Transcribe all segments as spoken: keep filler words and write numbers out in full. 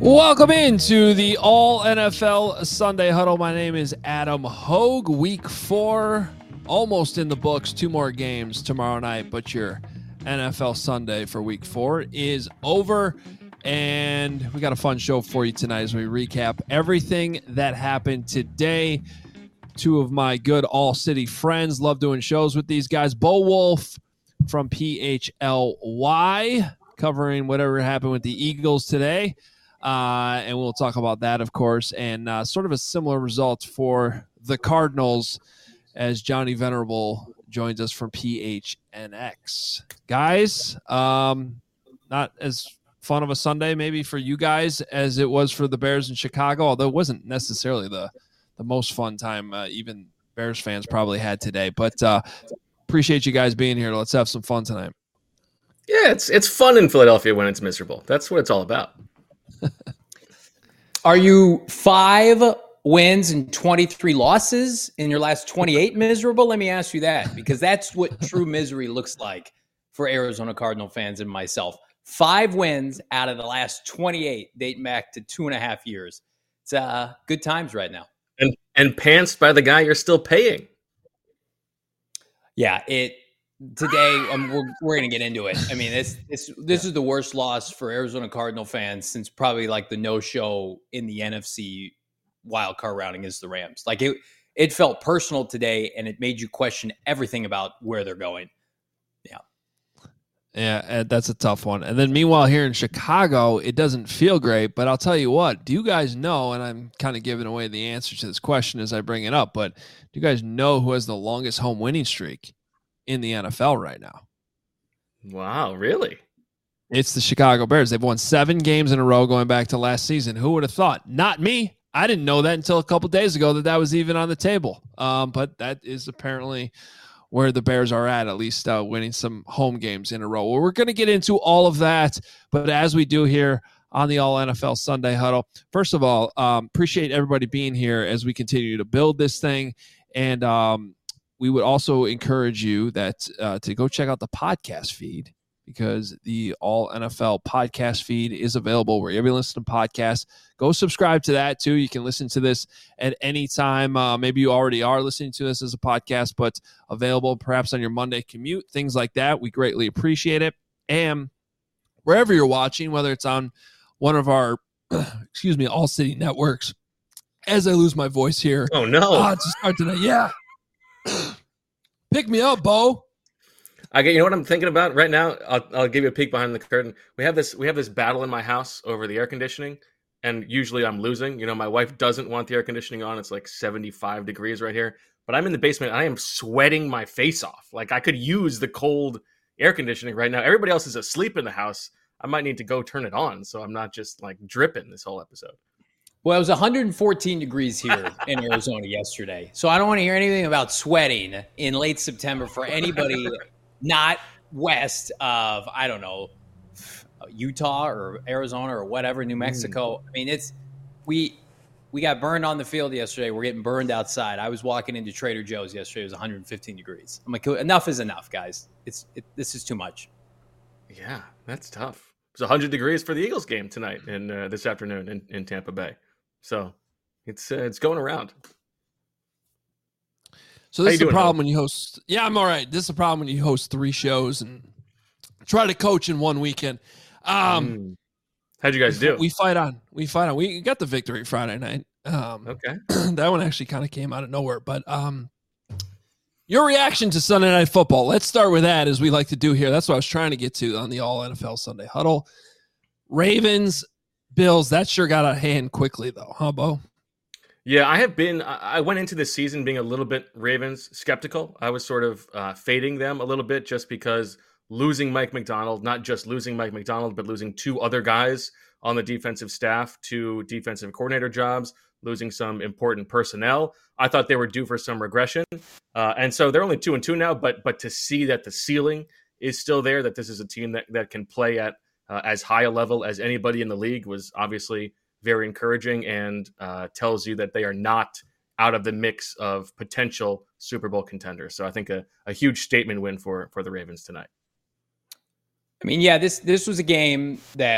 Welcome into the All N F L Sunday Huddle. My name is Adam Hogue. Week four, almost in the books. Two more games tomorrow night, but your N F L Sunday for week four is over. And we got a fun show for you tonight as we recap everything that happened today. Two of my good All-City friends. Love doing shows with these guys. Bo Wolf from P H L Y, covering whatever happened with the Eagles today. Uh, and we'll talk about that, of course, and uh, sort of a similar result for the Cardinals as Johnny Venerable joins us from P H N X. Guys, um, not as fun of a Sunday maybe for you guys as it was for the Bears in Chicago, although it wasn't necessarily the, the most fun time uh, even Bears fans probably had today. But uh, appreciate you guys being here. Let's have some fun tonight. Yeah, it's it's fun in Philadelphia when it's miserable. That's what it's all about. Are you five wins and twenty-three losses in your last twenty-eight miserable? Let me ask you that, because that's what true misery looks like for Arizona Cardinal fans and myself. Five wins out of the last twenty-eight dating back to two and a half years. It's uh, good times right now. And and pantsed by the guy you're still paying. Yeah, it today um, we're we're gonna get into it. I mean, this this this is the worst loss for Arizona Cardinal fans since probably like the no show in the N F C wild card round against the Rams. Like it it felt personal today, and it made you question everything about where they're going. Yeah, yeah, that's a tough one. And then meanwhile, here in Chicago, it doesn't feel great. But I'll tell you what. Do you guys know? And I'm kind of giving away the answer to this question as I bring it up. But do you guys know who has the longest home winning streak in the N F L right now? Wow, really? It's the Chicago Bears. They've won seven games in a row going back to last season. Who would have thought? Not me. I didn't know that until a couple days ago that that was even on the table. Um, but that is apparently where the Bears are at, at least uh, winning some home games in a row. Well, we're going to get into all of that, but as we do here on the All N F L Sunday Huddle, first of all, um, appreciate everybody being here as we continue to build this thing. And um, we would also encourage you that uh, to go check out the podcast feed, because the All N F L podcast feed is available wherever you listen to podcasts. Go subscribe to that, too. You can listen to this at any time. Uh, maybe you already are listening to this as a podcast, but available perhaps on your Monday commute, things like that. We greatly appreciate it. And wherever you're watching, whether it's on one of our, excuse me, All City networks, as I lose my voice here. Oh, no. Uh, to start tonight. Yeah. Pick me up, Bo. I get. You know what I'm thinking about right now? I'll, I'll give you a peek behind the curtain. We have this. We have this battle in my house over the air conditioning, and usually I'm losing. You know, my wife doesn't want the air conditioning on. It's like seventy-five degrees right here, but I'm in the basement. And I am sweating my face off. Like I could use the cold air conditioning right now. Everybody else is asleep in the house. I might need to go turn it on so I'm not just like dripping this whole episode. well, it was one hundred fourteen degrees here in Arizona yesterday, so I don't want to hear anything about sweating in late September for anybody not west of, I don't know, Utah or Arizona or whatever, New Mexico. I mean, it's we we got burned on the field yesterday. We're getting burned outside. I was walking into Trader Joe's yesterday. It was one hundred fifteen degrees. I'm like, enough is enough, guys. It's it, this is too much. Yeah, that's tough. It's one hundred degrees for the Eagles game tonight and uh, this afternoon in, in Tampa Bay. So it's uh, it's going around. So this is the problem when you host. Yeah, I'm all right. This is the problem when you host three shows and try to coach in one weekend. Um, mm. How'd you guys do? We fight on. We fight on. We got the victory Friday night. Um, okay. That one actually kind of came out of nowhere. But um, your reaction to Sunday Night Football. Let's start with that, as we like to do here. That's what I was trying to get to on the All N F L Sunday Huddle. Ravens, Bills. That sure got out of hand quickly, though, huh, Bo? Yeah, I have been. I went into this season being a little bit Ravens skeptical. I was sort of uh, fading them a little bit just because losing Mike Macdonald, not just losing Mike Macdonald, but losing two other guys on the defensive staff, two defensive coordinator jobs, losing some important personnel. I thought they were due for some regression. Uh, and so they're only two and two now, but but to see that the ceiling is still there, that this is a team that, that can play at uh, as high a level as anybody in the league was obviously very encouraging, and uh, tells you that they are not out of the mix of potential Super Bowl contenders. So I think a, a huge statement win for, for the Ravens tonight. I mean, yeah, this this was a game that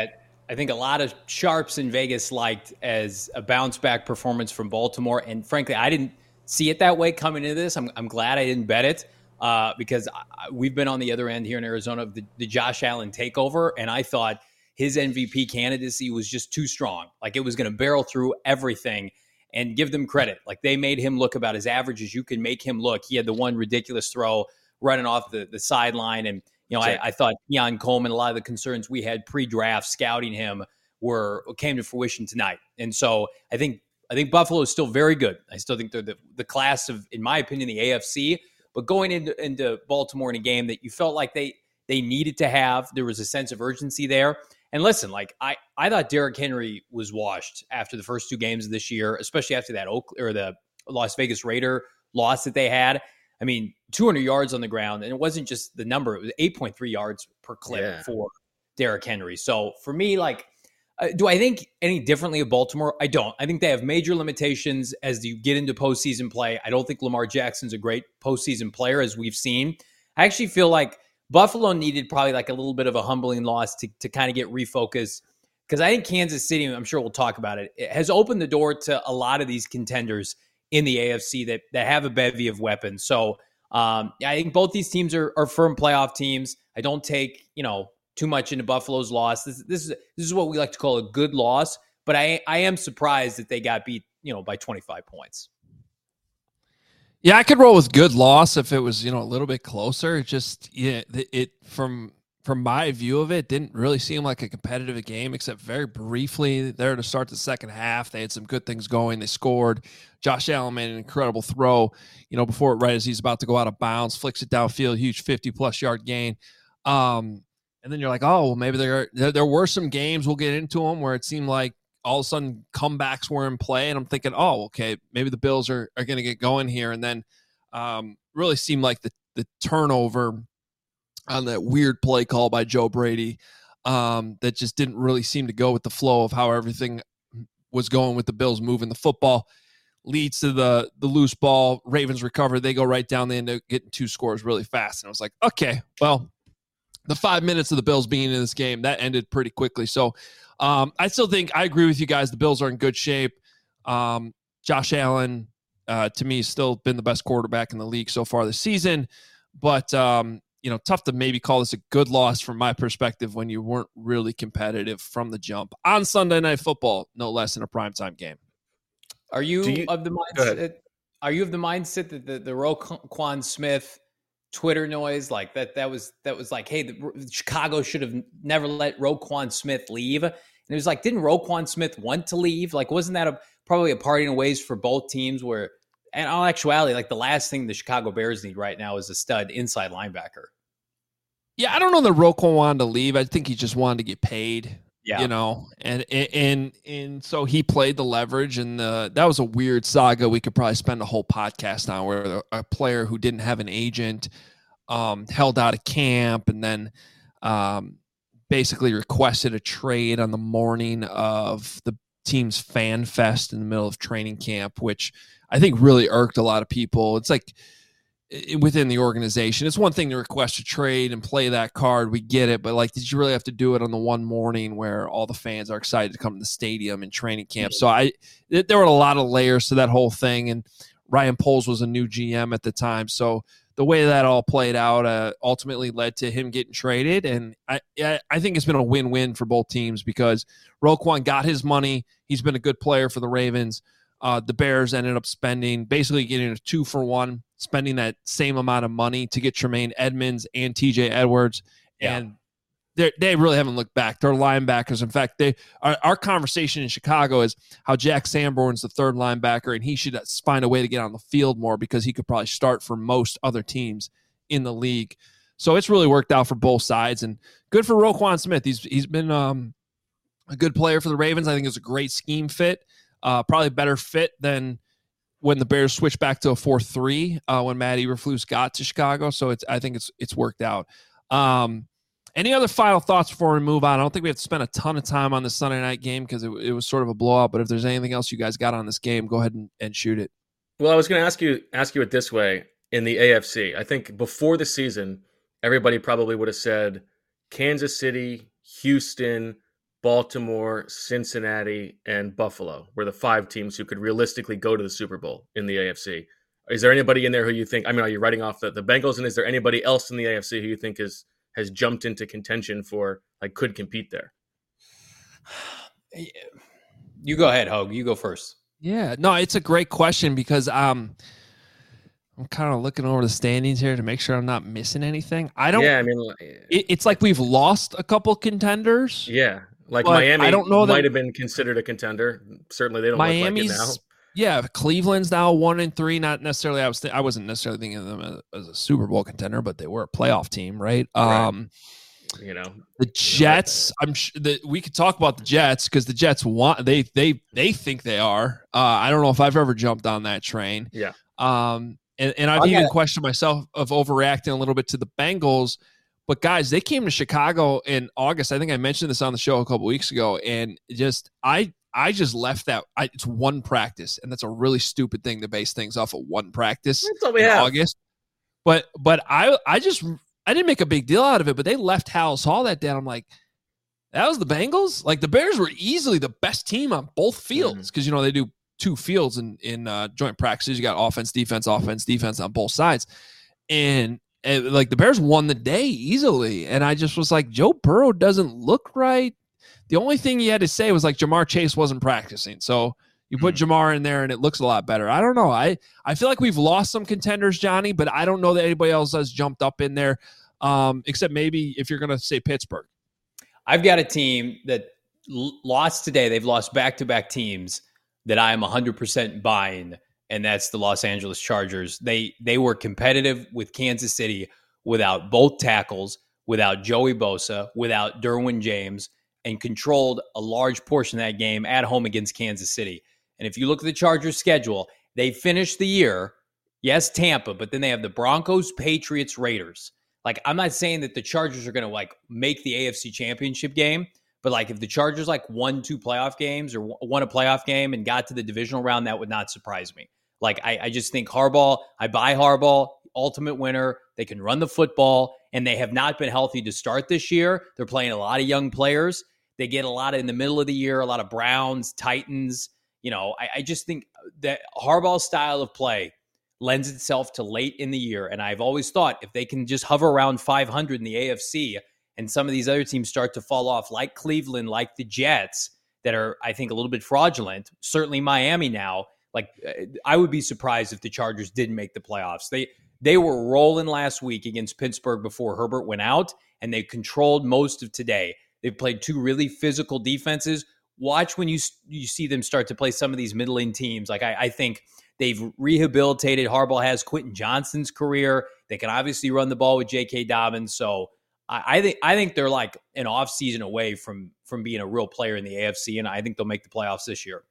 I think a lot of sharps in Vegas liked as a bounce back performance from Baltimore. And frankly, I didn't see it that way coming into this. I'm, I'm glad I didn't bet it uh, because I, we've been on the other end here in Arizona of the, the Josh Allen takeover. And I thought his M V P candidacy was just too strong. Like it was going to barrel through everything. And give them credit. Like they made him look about as average as you can make him look. He had the one ridiculous throw running off the, the sideline. And, you know, I, I thought Keon Coleman, a lot of the concerns we had pre-draft scouting him were came to fruition tonight. And so I think I think Buffalo is still very good. I still think they're the, the class of, in my opinion, the A F C. But going into, into Baltimore in a game that you felt like they they needed to have, there was a sense of urgency there. And listen, like I, I thought Derrick Henry was washed after the first two games of this year, especially after that Oak or the Las Vegas Raider loss that they had. I mean, two hundred yards on the ground, and it wasn't just the number; it was eight point three yards per clip yeah. for Derrick Henry. So for me, like, uh, do I think any differently of Baltimore? I don't. I think they have major limitations as you get into postseason play. I don't think Lamar Jackson's a great postseason player, as we've seen. I actually feel like Buffalo needed probably like a little bit of a humbling loss to, to kind of get refocused, because I think Kansas City, I'm sure we'll talk about it, it, has opened the door to a lot of these contenders in the A F C that, that have a bevy of weapons. So um, I think both these teams are, are firm playoff teams. I don't take, you know, too much into Buffalo's loss. This, this is this is what we like to call a good loss, but I I am surprised that they got beat, you know, by twenty-five points. Yeah, I could roll with good loss if it was, you know, a little bit closer. It just, yeah, it, it from from my view of it, didn't really seem like a competitive game, except very briefly there to start the second half. They had some good things going. They scored. Josh Allen made an incredible throw, you know, before it, right as he's about to go out of bounds, flicks it downfield, huge fifty-plus yard gain. Um, and then you're like, oh, well, maybe there, there there were some games, we'll get into them, where it seemed like all of a sudden comebacks were in play, and I'm thinking, oh, okay, maybe the Bills are, are going to get going here. And then um, really seemed like the, the turnover on that weird play call by Joe Brady um, that just didn't really seem to go with the flow of how everything was going with the Bills moving the football, leads to the the loose ball. Ravens recover. They go right down. They end up getting two scores really fast. And I was like, okay, well, the five minutes of the Bills being in this game, that ended pretty quickly. So um, I still think I agree with you guys. The Bills are in good shape. Um, Josh Allen, uh, to me, has still been the best quarterback in the league so far this season. But, um, you know, tough to maybe call this a good loss from my perspective when you weren't really competitive from the jump on Sunday Night Football, no less than a primetime game. Are you, you of the mindset? Are you of the mindset that the, the Roquan Smith Twitter noise, like that, that was, that was like, hey, the, Chicago should have never let Roquan Smith leave. And it was like, didn't Roquan Smith want to leave? Like, wasn't that a, probably a parting of ways for both teams where, and in all actuality, like the last thing the Chicago Bears need right now is a stud inside linebacker. Yeah. I don't know that Roquan wanted to leave. I think he just wanted to get paid. Yeah. You know, and, and, and so he played the leverage, and the, that was a weird saga. We could probably spend a whole podcast on, where a player who didn't have an agent um, held out of camp, and then um, basically requested a trade on the morning of the team's fan fest in the middle of training camp, which I think really irked a lot of people. It's like, within the organization, it's one thing to request a trade and play that card. We get it. But like, did you really have to do it on the one morning where all the fans are excited to come to the stadium and training camp? So I, there were a lot of layers to that whole thing. And Ryan Poles was a new G M at the time. So the way that all played out uh, ultimately led to him getting traded. And I, I think it's been a win-win for both teams, because Roquan got his money. He's been a good player for the Ravens. Uh, the Bears ended up spending, basically getting a two for one, spending that same amount of money to get Tremaine Edmonds and T J Edwards. Yeah. And they really haven't looked back. They're linebackers. In fact, they our, our conversation in Chicago is how Jack Sanborn's the third linebacker, and he should find a way to get on the field more, because he could probably start for most other teams in the league. So it's really worked out for both sides, and good for Roquan Smith. He's He's been um, a good player for the Ravens. I think it's a great scheme fit. Uh, probably a better fit than when the Bears switched back to a four three uh, when Matt Eberflus got to Chicago. So it's I think it's it's worked out. Um, any other final thoughts before we move on? I don't think we have to spend a ton of time on the Sunday night game, because it, it was sort of a blowout. But if there's anything else you guys got on this game, go ahead and, and shoot it. Well, I was going to ask you ask you it this way. In the A F C, I think before the season, everybody probably would have said Kansas City, Houston, Baltimore, Cincinnati, and Buffalo were the five teams who could realistically go to the Super Bowl in the A F C. Is there anybody in there who you think, I mean, are you writing off the, the Bengals, and is there anybody else in the A F C who you think is, has jumped into contention for, like, could compete there? You go ahead, Hogue. You go first. Yeah, no, it's a great question because um, I'm kind of looking over the standings here to make sure I'm not missing anything. I don't. Yeah, I mean, it, it's like we've lost a couple contenders. Yeah, like Miami. I don't know that might have been considered a contender. Certainly, they don't Miami's, look like it now. Yeah, Cleveland's now one and three. Not necessarily. I was. Th- I wasn't necessarily thinking of them as, as a Super Bowl contender, but they were a playoff team, right? right. Um, you know, the Jets. I'm sure that we could talk about the Jets because the Jets want. They they they think they are. Uh, I don't know if I've ever jumped on that train. Yeah. Um, and, and I've Okay. even questioned myself of overreacting a little bit to the Bengals. But guys, they came to Chicago in August. I think I mentioned this on the show a couple weeks ago, and just I I just left that. I, it's one practice, and that's a really stupid thing to base things off of one practice That's all we in have. August. But but I I just I didn't make a big deal out of it. But they left Halas Hall that day. And I'm like, that was the Bengals. Like the Bears were easily the best team on both fields because mm-hmm. you know they do two fields in in uh, joint practices. You got offense, defense, offense, defense on both sides, and. And, like the Bears won the day easily, and I just was like, Joe Burrow doesn't look right. The only thing you had to say was like Jamar Chase wasn't practicing, so you put mm-hmm. Jamar in there, and it looks a lot better. I don't know. I I feel like we've lost some contenders, Johnny, but I don't know that anybody else has jumped up in there, um, except maybe if you're going to say Pittsburgh. I've got a team that l- lost today. They've lost back-to-back teams that I am one hundred percent buying. And that's the Los Angeles Chargers. They they were competitive with Kansas City without both tackles, without Joey Bosa, without Derwin James, and controlled a large portion of that game at home against Kansas City. And if you look at the Chargers' schedule, they finished the year, yes, Tampa, but then they have the Broncos, Patriots, Raiders. Like, I'm not saying that the Chargers are going to, like, make the A F C Championship game, but, like, if the Chargers, like, won two playoff games or won a playoff game and got to the divisional round, that would not surprise me. Like, I, I just think Harbaugh, I buy Harbaugh, ultimate winner. They can run the football, and they have not been healthy to start this year. They're playing a lot of young players. They get a lot of, in the middle of the year, a lot of Browns, Titans. You know, I, I just think that Harbaugh's style of play lends itself to late in the year. And I've always thought if they can just hover around five hundred in the A F C and some of these other teams start to fall off, like Cleveland, like the Jets, that are, I think, a little bit fraudulent, certainly Miami now, like, I would be surprised if the Chargers didn't make the playoffs. They they were rolling last week against Pittsburgh before Herbert went out, and they controlled most of today. They've played two really physical defenses. Watch when you you see them start to play some of these middling teams. Like, I, I think they've rehabilitated. Harbaugh has Quentin Johnston's career. They can obviously run the ball with J K. Dobbins. So I, I think I think they're like an offseason away from, from being a real player in the A F C, and I think they'll make the playoffs this year.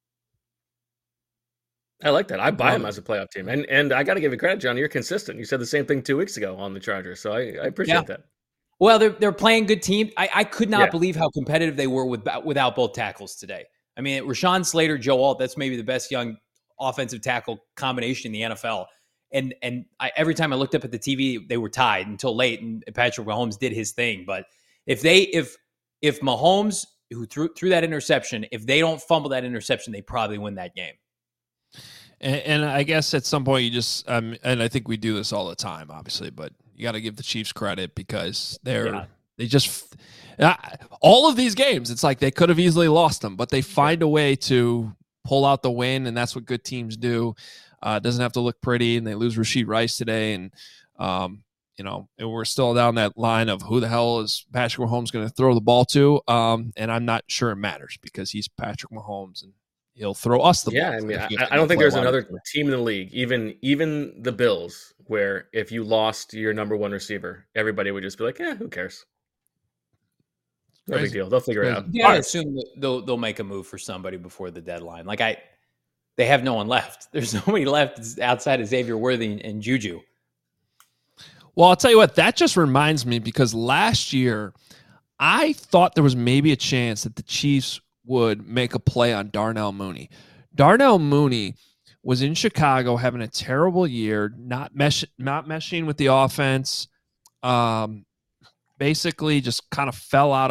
I like that. I buy them as a playoff team. And and I got to give you credit, Johnny. You're consistent. You said the same thing two weeks ago on the Chargers. So I, I appreciate yeah. that. Well, they're they're playing good team. I, I could not yeah. believe how competitive they were with without both tackles today. I mean, Rashawn Slater, Joe Alt, that's maybe the best young offensive tackle combination in the N F L. And and I, every time I looked up at the T V, they were tied until late, and Patrick Mahomes did his thing. But if they if if Mahomes, who threw threw that interception, if they don't fumble that interception, they probably win that game. And, and I guess at some point you just, um, and I think we do this all the time, obviously, but you got to give the Chiefs credit because they're, yeah. they just, uh, all of these games, it's like they could have easily lost them, but they find a way to pull out the win, and that's what good teams do. Uh, it doesn't have to look pretty, and they lose Rashee Rice today, and, um, you know, and we're still down that line of who the hell is Patrick Mahomes going to throw the ball to, um, and I'm not sure it matters because he's Patrick Mahomes, and he'll throw us the yeah, ball. I mean, I, I don't think there's another team in the league, even even the Bills, where if you lost your number one receiver, everybody would just be like, "Yeah, who cares? No Crazy. Big deal. They'll figure Crazy. it out." Yeah, I assume that they'll they'll make a move for somebody before the deadline. Like I, they have no one left. There's nobody left outside of Xavier Worthy and Juju. Well, I'll tell you what. That just reminds me because last year I thought there was maybe a chance that the Chiefs would make a play on Darnell Mooney. Darnell Mooney was in Chicago having a terrible year, not mesh, not meshing with the offense. Um, basically just kind of fell out of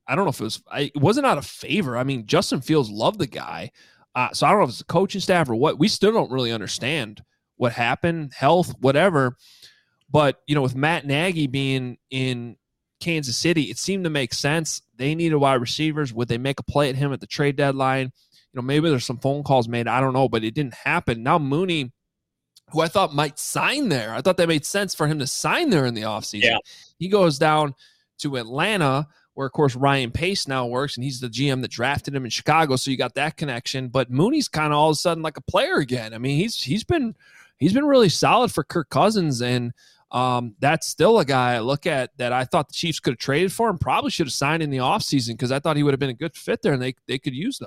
I don't know if it was, I, it wasn't out of favor. I mean, Justin Fields loved the guy. Uh, so I don't know if it's the coaching staff or what. We still don't really understand what happened, health, whatever. But, you know, with Matt Nagy being in Kansas City, it seemed to make sense. They needed wide receivers. Would they make a play at him at the trade deadline? You know, maybe there's some phone calls made. I don't know, but it didn't happen. Now Mooney, who I thought might sign there, I thought that made sense for him to sign there in the offseason. Yeah. He goes down to Atlanta, where, of course, Ryan Pace now works, and he's the G M that drafted him in Chicago, so you got that connection. But Mooney's kind of all of a sudden like a player again. I mean, he's he's been he's been really solid for Kirk Cousins, and um, that's still a guy I look at that I thought the Chiefs could have traded for and probably should have signed in the offseason because I thought he would have been a good fit there, and they they could use them.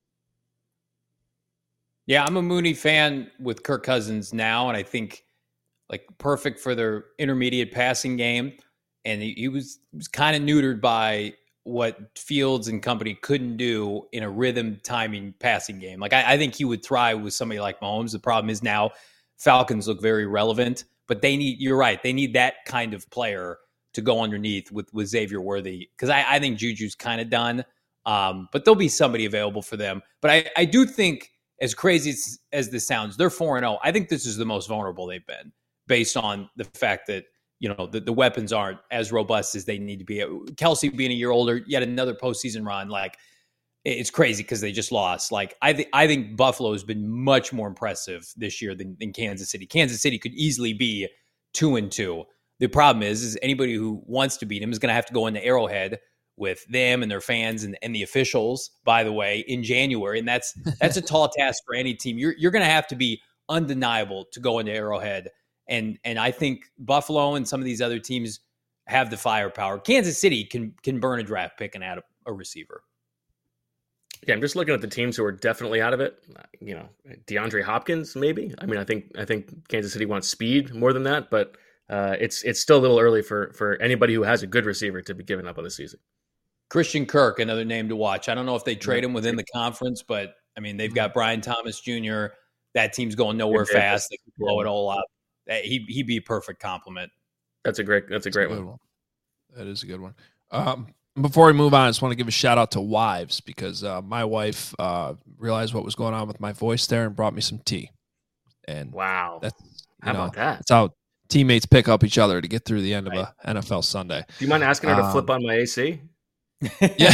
Yeah, I'm a Mooney fan with Kirk Cousins now, and I think like perfect for their intermediate passing game. And he, he was, was kind of neutered by what Fields and company couldn't do in a rhythm timing passing game. Like I, I think he would thrive with somebody like Mahomes. The problem is now Falcons look very relevant, but they need, you're right, they need that kind of player to go underneath with, with Xavier Worthy. Because I, I think Juju's kind of done, um, but there'll be somebody available for them. But I, I do think, as crazy as, as this sounds, they're four and oh. I think this is the most vulnerable they've been based on the fact that, you know, the, the weapons aren't as robust as they need to be. Kelsey being a year older, yet another postseason run, like it's crazy because they just lost. Like I think I think Buffalo has been much more impressive this year than, than Kansas City. Kansas City could easily be two and two. The problem is, is anybody who wants to beat them is going to have to go into Arrowhead with them and their fans and, and the officials, by the way, in January. And that's that's a tall task for any team. You're you're going to have to be undeniable to go into Arrowhead. And and I think Buffalo and some of these other teams have the firepower. Kansas City can can burn a draft pick and add a, a receiver. Yeah, I'm just looking at the teams who are definitely out of it. You know, DeAndre Hopkins, maybe. I mean, I think I think Kansas City wants speed more than that, but uh, it's it's still a little early for for anybody who has a good receiver to be giving up on the season. Christian Kirk, another name to watch. I don't know if they trade him within the conference, but I mean, they've got Brian Thomas Junior That team's going nowhere fast. They can blow it all up. He he'd be a perfect compliment. That's a great. That's a great that's a one. one. That is a good one. Um, before we move on, I just want to give a shout out to Wives because uh, my wife uh, realized what was going on with my voice there and brought me some tea. And wow, that's how know, about that? That's how teammates pick up each other to get through the end right. of a N F L Sunday. Do you mind asking her to um, flip on my A C? Yeah,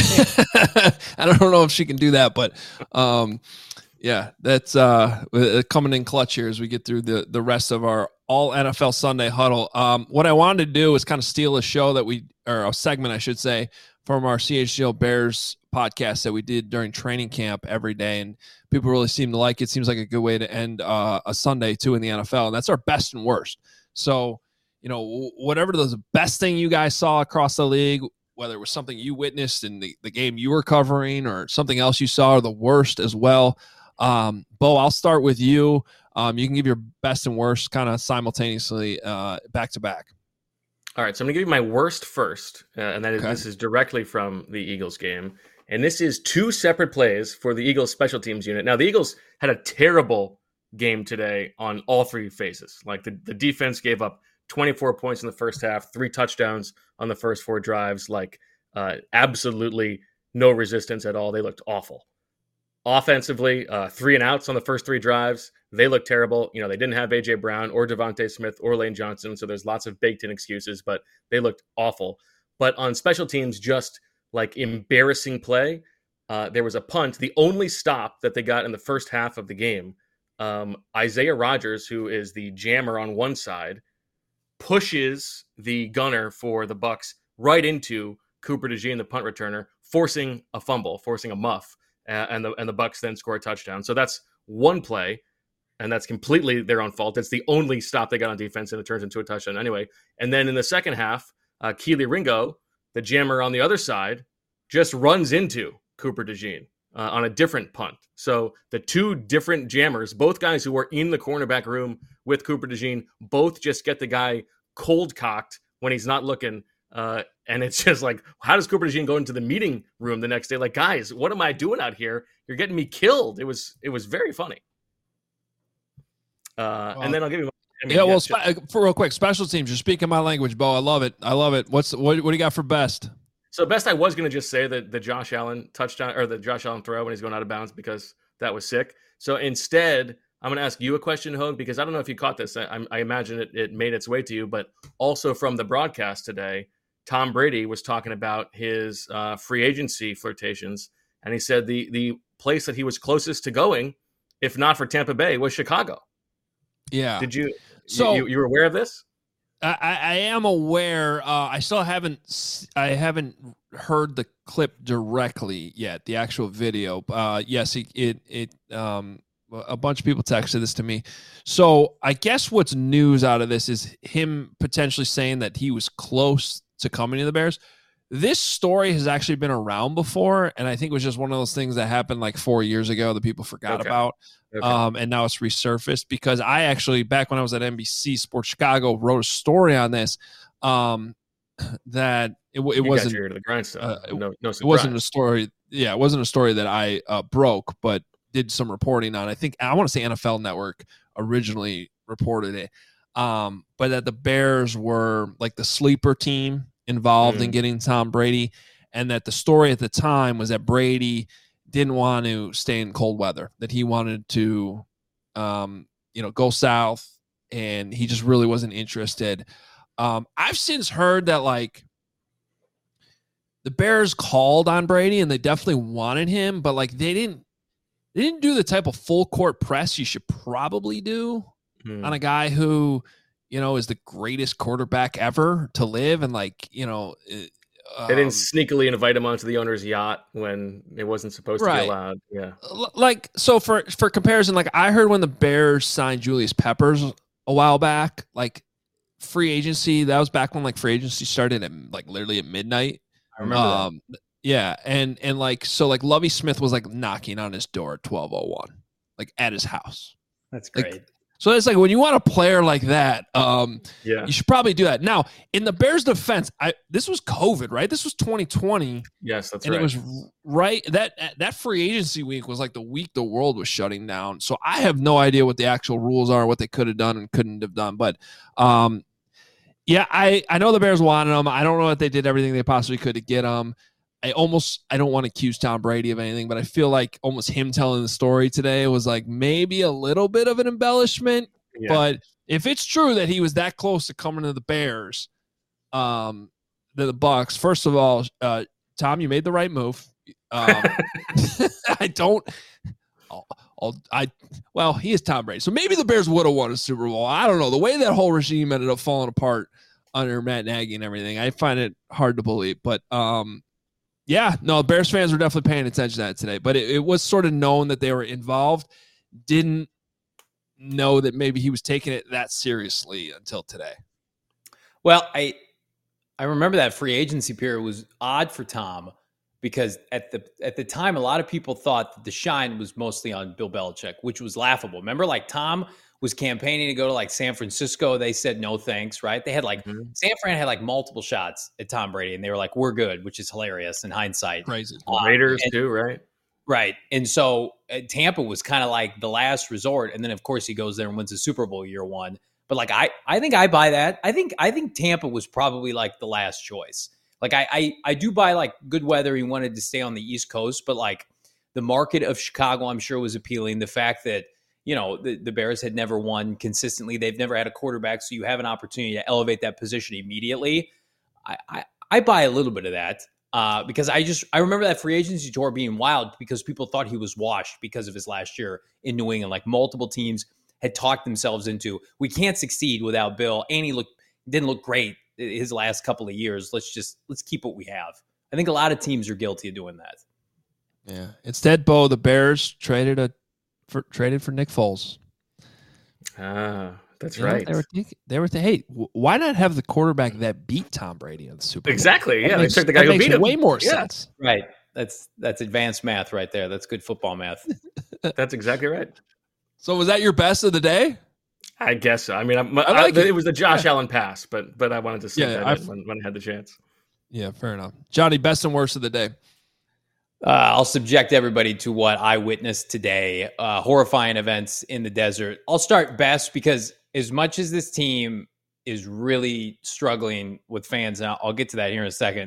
I don't know if she can do that, but um, yeah, that's uh, coming in clutch here as we get through the the rest of our all N F L Sunday huddle. Um, what I wanted to do is kind of steal a show that we, or a segment, I should say, from our C H G O Bears podcast that we did during training camp every day, and people really seem to like it. Seems like a good way to end uh, a Sunday too in the N F L, and that's our best and worst. So, you know, whatever the best thing you guys saw across the league, whether it was something you witnessed in the, the game you were covering or something else you saw, or the worst as well. Um, Bo, I'll start with you. Um, you can give your best and worst kind of simultaneously uh, back to back. All right, so I'm going to give you my worst first, uh, and that is, okay. This is directly from the Eagles game. And this is two separate plays for the Eagles special teams unit. Now, the Eagles had a terrible game today on all three phases. Like the, the defense gave up twenty-four points in the first half, three touchdowns on the first four drives, like uh, absolutely no resistance at all. They looked awful. Offensively, uh, three and outs on the first three drives. They look terrible. You know, they didn't have A J Brown or Devontae Smith or Lane Johnson, so there's lots of baked-in excuses, but they looked awful. But on special teams, just like embarrassing play, uh, there was a punt, the only stop that they got in the first half of the game. Um, Isaiah Rodgers, who is the jammer on one side, pushes the gunner for the Bucs right into Cooper DeJean, the punt returner, forcing a fumble, forcing a muff, uh, and the and the Bucs then score a touchdown. So that's one play. And that's completely their own fault. It's the only stop they got on defense, and it turns into a touchdown anyway. And then in the second half, uh, Keely Ringo, the jammer on the other side, just runs into Cooper DeJean uh, on a different punt. So the two different jammers, both guys who were in the cornerback room with Cooper DeJean, both just get the guy cold cocked when he's not looking. Uh, and it's just like, how does Cooper DeJean go into the meeting room the next day? Like, guys, what am I doing out here? You're getting me killed. It was it was very funny. Uh, well, and then I'll give you. I mean, yeah, yeah, well, spe- for real quick, special teams. You're speaking my language, Bo. I love it. I love it. What's what? What do you got for best? So best I was going to just say that the Josh Allen touchdown or the Josh Allen throw when he's going out of bounds because that was sick. So instead, I'm going to ask you a question, Hogue, because I don't know if you caught this. I, I imagine it, it made its way to you, but also from the broadcast today, Tom Brady was talking about his uh, free agency flirtations, and he said the the place that he was closest to going, if not for Tampa Bay, was Chicago. Yeah. Did you? So you, you were aware of this? I, I am aware. Uh, I still haven't. I haven't heard the clip directly yet. The actual video. Uh, yes, it it, it um, a bunch of people texted this to me. So I guess what's news out of this is him potentially saying that he was close to coming to the Bears. This story has actually been around before, and I think it was just one of those things that happened like four years ago that people forgot Okay. about. Okay. Um, and now it's resurfaced because I actually, back when I was at N B C Sports Chicago, wrote a story on this um, that it, it You wasn't got your ear to the grindstone. uh, no, no surprise. it wasn't a story. Yeah, it wasn't a story that I uh, broke, but did some reporting on. I think I want to say N F L Network originally reported it, um, but that the Bears were like the sleeper team involved Mm. in getting Tom Brady, and that the story at the time was that Brady didn't want to stay in cold weather, that he wanted to, um, you know, go south, and he just really wasn't interested. Um, I've since heard that like the Bears called on Brady and they definitely wanted him, but like they didn't, they didn't do the type of full court press you should probably do Hmm. on a guy who, you know, is the greatest quarterback ever to live, and like, you know. Um, They didn't sneakily invite him onto the owner's yacht when it wasn't supposed to Right. be allowed. Yeah. Like, so for for comparison, like I heard when the Bears signed Julius Peppers a while back, like free agency, that was back when like free agency started at like literally at midnight. I remember that. Um, yeah, and and like so like Lovie Smith was like knocking on his door at twelve oh one, like at his house. That's like, great. So it's like when you want a player like that, um, Yeah. you should probably do that. Now, in the Bears' defense, I this was COVID, right? This was twenty twenty. Yes, that's And right. it was right that that free agency week was like the week the world was shutting down. So I have no idea what the actual rules are, what they could have done and couldn't have done. But um, yeah, I, I know the Bears wanted him. I don't know if they did everything they possibly could to get him. I almost I don't want to accuse Tom Brady of anything, but I feel like almost him telling the story today was like maybe a little bit of an embellishment. Yeah. But if it's true that he was that close to coming to the Bears, um, the, the Bucks, first of all, uh, Tom, you made the right move. Um, I don't. I'll, I'll, I well, he is Tom Brady, so maybe the Bears would have won a Super Bowl. I don't know. The way that whole regime ended up falling apart under Matt Nagy and everything, I find it hard to believe. But um, yeah, no, Bears fans were definitely paying attention to that today. But it, it was sort of known that they were involved. Didn't know that maybe he was taking it that seriously until today. Well, I I remember that free agency period was odd for Tom because at the at the time, a lot of people thought that the shine was mostly on Bill Belichick, which was laughable. Remember, like Tom was campaigning to go to like San Francisco. They said no thanks, right? They had like Mhm. San Fran had like multiple shots at Tom Brady, and they were like, "We're good," which is hilarious in hindsight. Crazy. Um, Raiders and- too, right? Right. And so uh, Tampa was kind of like the last resort. And then, of course, he goes there and wins the Super Bowl year one. But like, I, I think I buy that. I think I think Tampa was probably like the last choice. Like, I, I, I do buy like good weather. He wanted to stay on the East Coast. But like the market of Chicago, I'm sure was appealing. The fact that, you know, the, the Bears had never won consistently. They've never had a quarterback. So you have an opportunity to elevate that position immediately. I, I, I buy a little bit of that. Uh, because I just I remember that free agency tour being wild because people thought he was washed because of his last year in New England. Like multiple teams had talked themselves into we can't succeed without Bill, and he looked didn't look great his last couple of years. Let's just let's keep what we have. I think a lot of teams are guilty of doing that. Yeah. Instead, Bo, the Bears traded a for traded for Nick Foles. Ah, that's You know, right. They were thinking, they were thinking, hey, w- why not have the quarterback that beat Tom Brady in the Super Bowl? Exactly. That Yeah, makes- they took the guy that who makes beat him. way more Yeah. sense. Right. That's that's advanced math right there. That's good football math. That's exactly right. So was that your best of the day? I guess so. I mean, I, I like I- it. it was the Josh Allen pass, but but I wanted to see Yeah, that I've- in when, when I had the chance. Yeah, fair enough. Johnny, best and worst of the day. Uh, I'll subject everybody to what I witnessed today. Uh, horrifying events in the desert. I'll start best because as much as this team is really struggling with fans, and I'll, I'll get to that here in a second,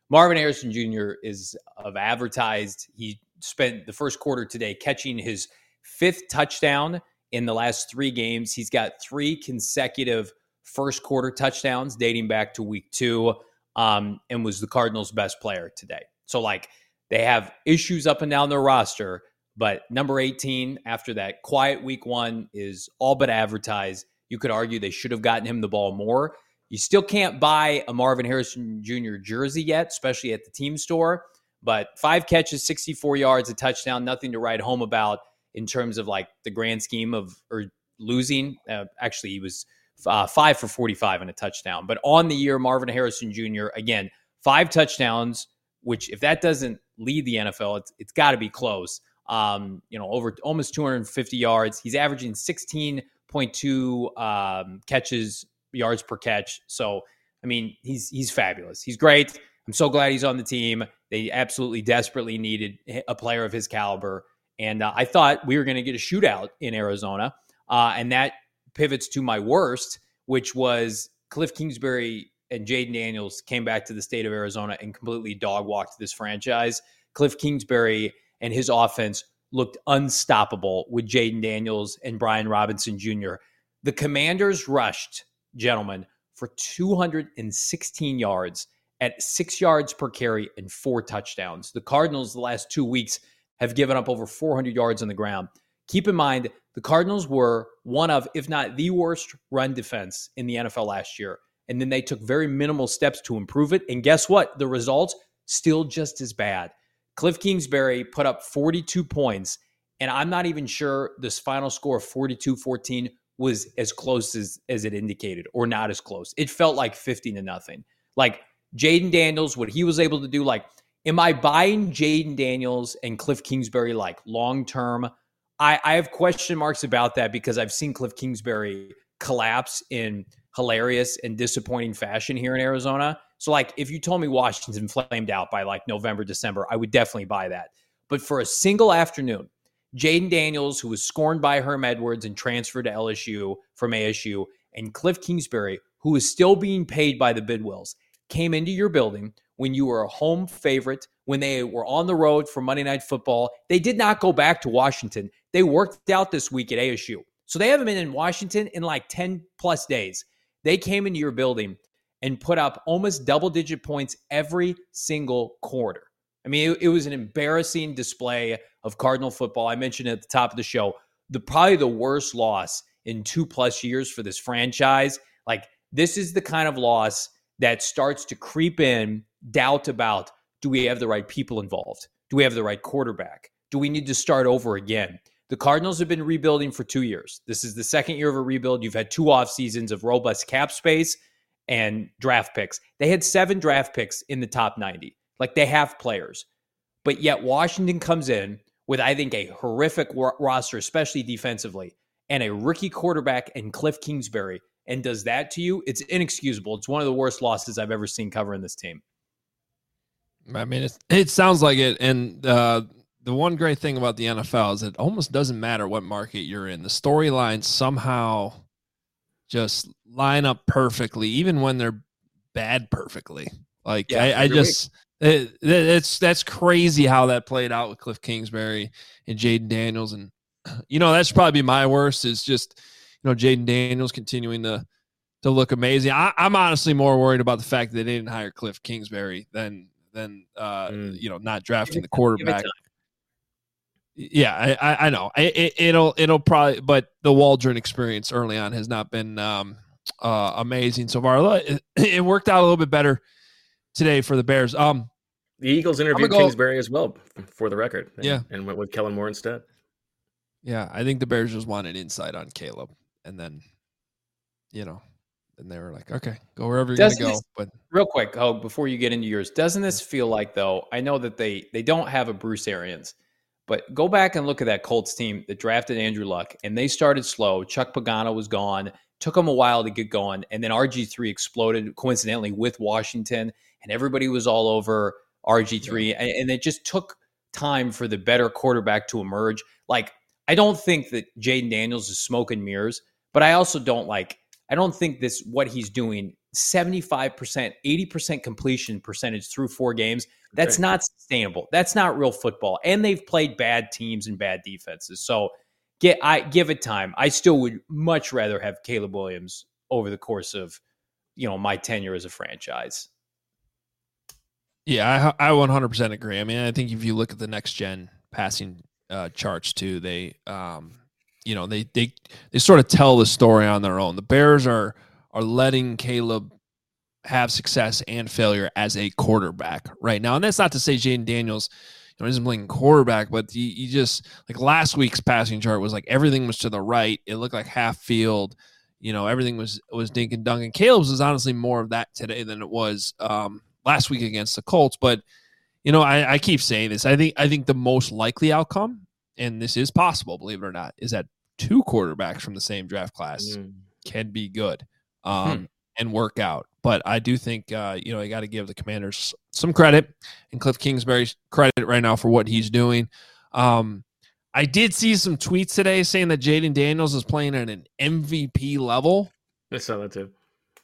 Marvin Harrison Junior is of advertised. He spent the first quarter today catching his fifth touchdown in the last three games. He's got three consecutive first quarter touchdowns dating back to week two, um, and was the Cardinals' best player today. So, like, they have issues up and down their roster, but number eighteen, after that quiet week one, is all but advertised. You could argue they should have gotten him the ball more. You still can't buy a Marvin Harrison Junior jersey yet, especially at the team store. But five catches, sixty-four yards, a touchdown, nothing to write home about in terms of like the grand scheme of or losing. Uh, actually, he was uh, five for forty-five and a touchdown. But on the year, Marvin Harrison Junior, again, five touchdowns, which if that doesn't lead the N F L, it's it's got to be close. Um, you know, over almost two hundred fifty yards. He's averaging sixteen point two um, catches, yards per catch. So, I mean, he's he's fabulous. He's great. I'm so glad he's on the team. They absolutely desperately needed a player of his caliber. And uh, I thought we were going to get a shootout in Arizona. Uh, and that pivots to my worst, which was Cliff Kingsbury and Jaden Daniels came back to the state of Arizona and completely dog-walked this franchise. Cliff Kingsbury and his offense looked unstoppable with Jaden Daniels and Brian Robinson Junior The Commanders rushed, gentlemen, for two hundred sixteen yards at six yards per carry and four touchdowns. The Cardinals the last two weeks have given up over four hundred yards on the ground. Keep in mind, the Cardinals were one of, if not the worst run defense in the N F L last year. And then they took very minimal steps to improve it. And guess what? The results still just as bad. Cliff Kingsbury put up forty-two points, and I'm not even sure this final score of forty-two fourteen was as close as, as it indicated, or not as close. It felt like fifty to nothing. Like Jaden Daniels, what he was able to do, like, am I buying Jaden Daniels and Cliff Kingsbury like long-term? I, I have question marks about that because I've seen Cliff Kingsbury collapse in hilarious and disappointing fashion here in Arizona. So, like, if you told me Washington flamed out by like November, December, I would definitely buy that. But for a single afternoon, Jaden Daniels, who was scorned by Herm Edwards and transferred to L S U from A S U, and Cliff Kingsbury, who is still being paid by the Bidwills, came into your building when you were a home favorite, when they were on the road for Monday Night Football. They did not go back to Washington. They worked out this week at A S U. So they haven't been in Washington in like ten plus days. They came into your building and put up almost double-digit points every single quarter. I mean, it, it was an embarrassing display of Cardinal football. I mentioned at the top of the show, the probably the worst loss in two-plus years for this franchise. Like, this is the kind of loss that starts to creep in doubt about, do we have the right people involved? Do we have the right quarterback? Do we need to start over again? The Cardinals have been rebuilding for two years. This is the second year of a rebuild. You've had two off seasons of robust cap space and draft picks. They had seven draft picks in the top ninety. Like, they have players. But yet Washington comes in with, I think, a horrific ro- roster, especially defensively, and a rookie quarterback in Cliff Kingsbury, and does that to you. It's inexcusable. It's one of the worst losses I've ever seen covering this team. I mean, it's, it sounds like it. And uh, the one great thing about the N F L is it almost doesn't matter what market you're in. The storylines somehow just line up perfectly, even when they're bad perfectly. Like, yeah, I, I just, it, it's, that's crazy how that played out with Cliff Kingsbury and Jaden Daniels. And, you know, that's probably my worst is just, you know, Jaden Daniels continuing to, to look amazing. I, I'm honestly more worried about the fact that they didn't hire Cliff Kingsbury than, than, uh, mm. you know, not drafting the quarterback. Yeah, I, I, I know it, it'll, it'll probably, but the Waldron experience early on has not been um, uh, amazing so far. It, it worked out a little bit better today for the Bears. Um, the Eagles interviewed go, Kingsbury as well, for the record. And, yeah, and went with Kellen Moore instead. Yeah, I think the Bears just wanted insight on Caleb, and then, you know, and they were like, okay, go wherever you're going to go. But real quick, oh, before you get into yours, doesn't this feel like, though, I know that they they don't have a Bruce Arians, but go back and look at that Colts team that drafted Andrew Luck, and they started slow. Chuck Pagano was gone. Took them a while to get going, and then R G three exploded, coincidentally, with Washington, and everybody was all over R G three, yeah. and, and it just took time for the better quarterback to emerge. Like, I don't think that Jaden Daniels is smoke and mirrors, but I also don't like, I don't think this, what he's doing seventy-five percent, eighty percent completion percentage through four games. That's Okay. not sustainable. That's not real football. And they've played bad teams and bad defenses. So get I give it time. I still would much rather have Caleb Williams over the course of, you know, my tenure as a franchise. Yeah, I, I one hundred percent agree. I mean, I think if you look at the next gen passing uh, charts too, they, um, you know, they they they sort of tell the story on their own. The Bears are are letting Caleb have success and failure as a quarterback right now, and that's not to say Jaden Daniels, you know, isn't playing quarterback, but you, you just like last week's passing chart was like everything was to the right. It looked like half field. You know, everything was was dink and dunk. And Caleb's is honestly more of that today than it was um, last week against the Colts. But you know, I, I keep saying this. I think I think the most likely outcome, and this is possible, believe it or not, is that two quarterbacks from the same draft class mm. can be good um, hmm. and work out. But I do think uh, you know, you got to give the Commanders some credit and Cliff Kingsbury credit right now for what he's doing. Um, I did see some tweets today saying that Jaden Daniels is playing at an M V P level. I saw that too.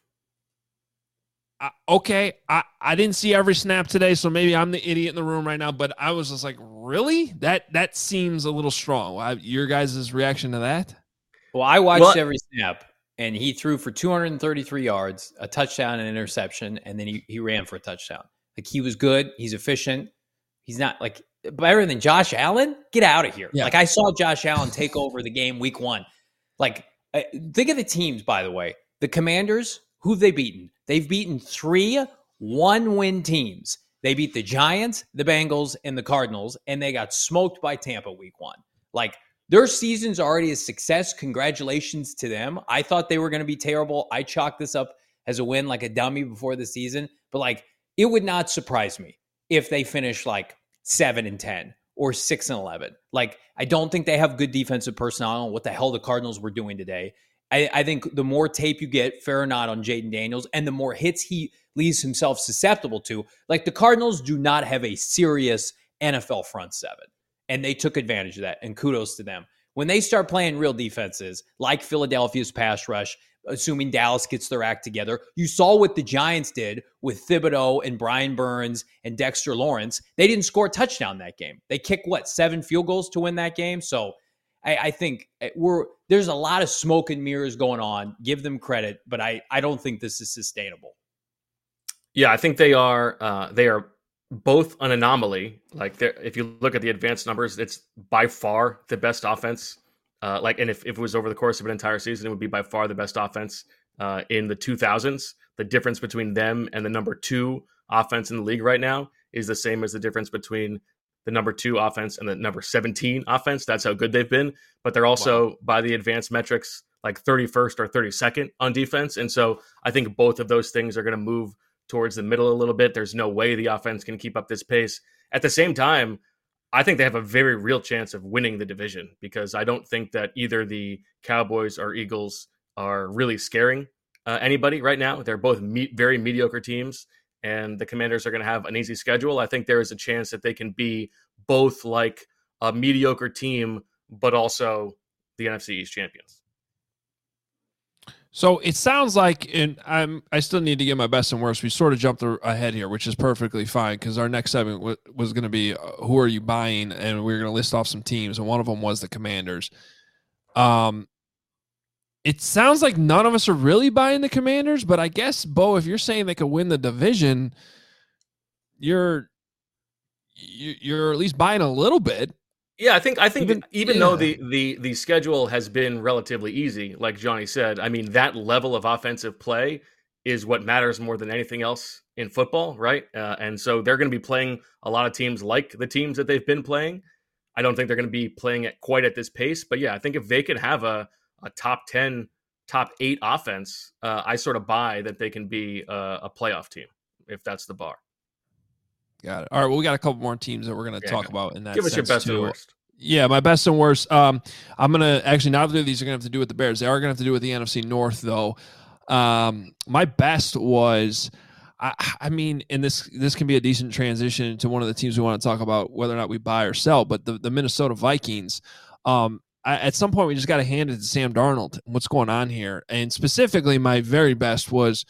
Uh, okay, I, I didn't see every snap today, so maybe I'm the idiot in the room right now, but I was just like, really? That that seems a little strong. Well, your guys' reaction to that? Well, I watched what? every snap, and he threw for two hundred thirty-three yards, a touchdown and an interception, and then he, he ran for a touchdown. Like, he was good. He's efficient. He's not, like, better than Josh Allen? Get out of here. Yeah. Like, I saw Josh Allen take over the game week one. Like, think of the teams, by the way. The Commanders, who've they beaten? They've beaten three one-win teams. They beat the Giants, the Bengals, and the Cardinals, and they got smoked by Tampa week one. Like, their season's already a success. Congratulations to them. I thought they were going to be terrible. I chalked this up as a win like a dummy before the season. But, like, it would not surprise me if they finish, like, seven and ten or six and eleven. Like, I don't think they have good defensive personnel. I don't know what the hell the Cardinals were doing today. I, I think the more tape you get, fair or not, on Jaden Daniels, and the more hits he leaves himself susceptible to, like, the Cardinals do not have a serious N F L front seven, and they took advantage of that, and kudos to them. When they start playing real defenses, like Philadelphia's pass rush, assuming Dallas gets their act together, you saw what the Giants did with Thibodeau and Brian Burns and Dexter Lawrence. They didn't score a touchdown that game. They kicked, what, seven field goals to win that game? So I, I think we're there's a lot of smoke and mirrors going on. Give them credit, but I, I don't think this is sustainable. Yeah, I think they are uh, they are both an anomaly. Like, if you look at the advanced numbers, it's by far the best offense. Uh, like, and if, if it was over the course of an entire season, it would be by far the best offense uh, in the two thousands. The difference between them and the number two offense in the league right now is the same as the difference between the number two offense and the number seventeen offense. That's how good they've been. But they're also, wow, by the advanced metrics, like thirty-first or thirty-second on defense. And so I think both of those things are going to move towards the middle a little bit. There's no way the offense can keep up this pace. At the same time, I think they have a very real chance of winning the division, because I don't think that either the Cowboys or Eagles are really scaring uh, anybody right now. They're both me- very mediocre teams, and the Commanders are going to have an easy schedule. I think there is a chance that they can be both like a mediocre team, but also the N F C East champions. So it sounds like, and I'm, I still need to get my best and worst. We sort of jumped ahead here, which is perfectly fine, because our next segment w- was going to be uh, who are you buying, and we were going to list off some teams, and one of them was the Commanders. Um, it sounds like none of us are really buying the Commanders, but I guess, Bo, if you're saying they could win the division, you're you're at least buying a little bit. Yeah, I think I think even, even yeah. though the, the the schedule has been relatively easy, like Johnny said, I mean, that level of offensive play is what matters more than anything else in football, right? Uh, and so they're going to be playing a lot of teams like the teams that they've been playing. I don't think they're going to be playing at quite at this pace, but yeah, I think if they can have a, a top ten, top eight offense, uh, I sort of buy that they can be a, a playoff team, if that's the bar. Got it. All right, well, we got a couple more teams that we're going to yeah, talk about in that. Give us your best too. and worst. Yeah, my best and worst. Um, I'm going to actually, neither of these are going to have to do with the Bears. They are going to have to do with the N F C North, though. Um, my best was, I, I mean, and this this can be a decent transition to one of the teams we want to talk about, whether or not we buy or sell, but the, the Minnesota Vikings. Um, I, at some point, we just got to hand it to Sam Darnold. What's going on here? And specifically, my very best was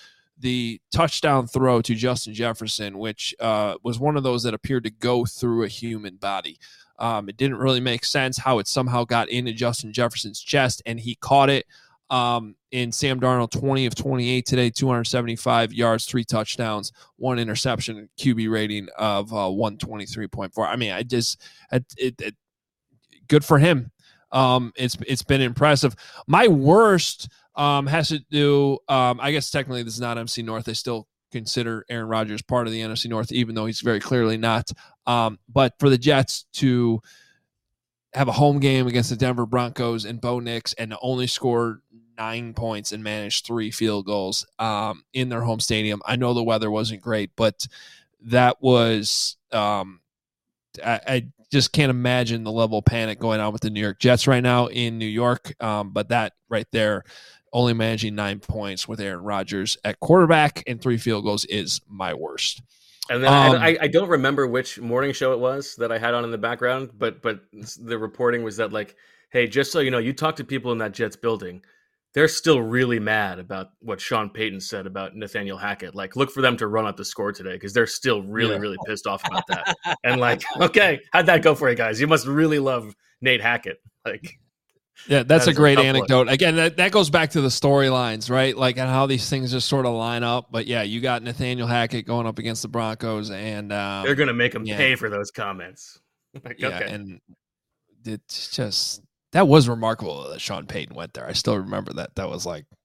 the touchdown throw to Justin Jefferson, which uh, was one of those that appeared to go through a human body. Um, it didn't really make sense how it somehow got into Justin Jefferson's chest, and he caught it. Um, in Sam Darnold, twenty of twenty-eight today, two hundred seventy-five yards, three touchdowns, one interception, Q B rating of uh, one twenty-three point four. I mean, I just, it, it, it good for him. Um, it's it's been impressive. My worst um, has to do, um, I guess technically this is not N F C North. They still consider Aaron Rodgers part of the N F C North, even though he's very clearly not. Um, but for the Jets to have a home game against the Denver Broncos and Bo Nix and only score nine points and manage three field goals um, in their home stadium. I know the weather wasn't great, but that was um, I, I just can't imagine the level of panic going on with the New York Jets right now in New York. Um, but that right there, only managing nine points with Aaron Rodgers at quarterback and three field goals is my worst. And then Um, I, I don't remember which morning show it was that I had on in the background, but but the reporting was that, like, hey, just so you know, you talk to people in that Jets building, they're still really mad about what Sean Payton said about Nathaniel Hackett. Like, look for them to run up the score today because they're still really, Yeah. really pissed off about that. And like, okay, how'd that go for you guys? You must really love Nate Hackett. Like, Yeah, that's That a is a great tough anecdote. Again, that, that goes back to the storylines, right? Like, and how these things just sort of line up. But yeah, you got Nathaniel Hackett going up against the Broncos, and um, they're gonna make him yeah. pay for those comments. Like, yeah, okay. and it's just that was remarkable that Sean Payton went there. I still remember that. That was like,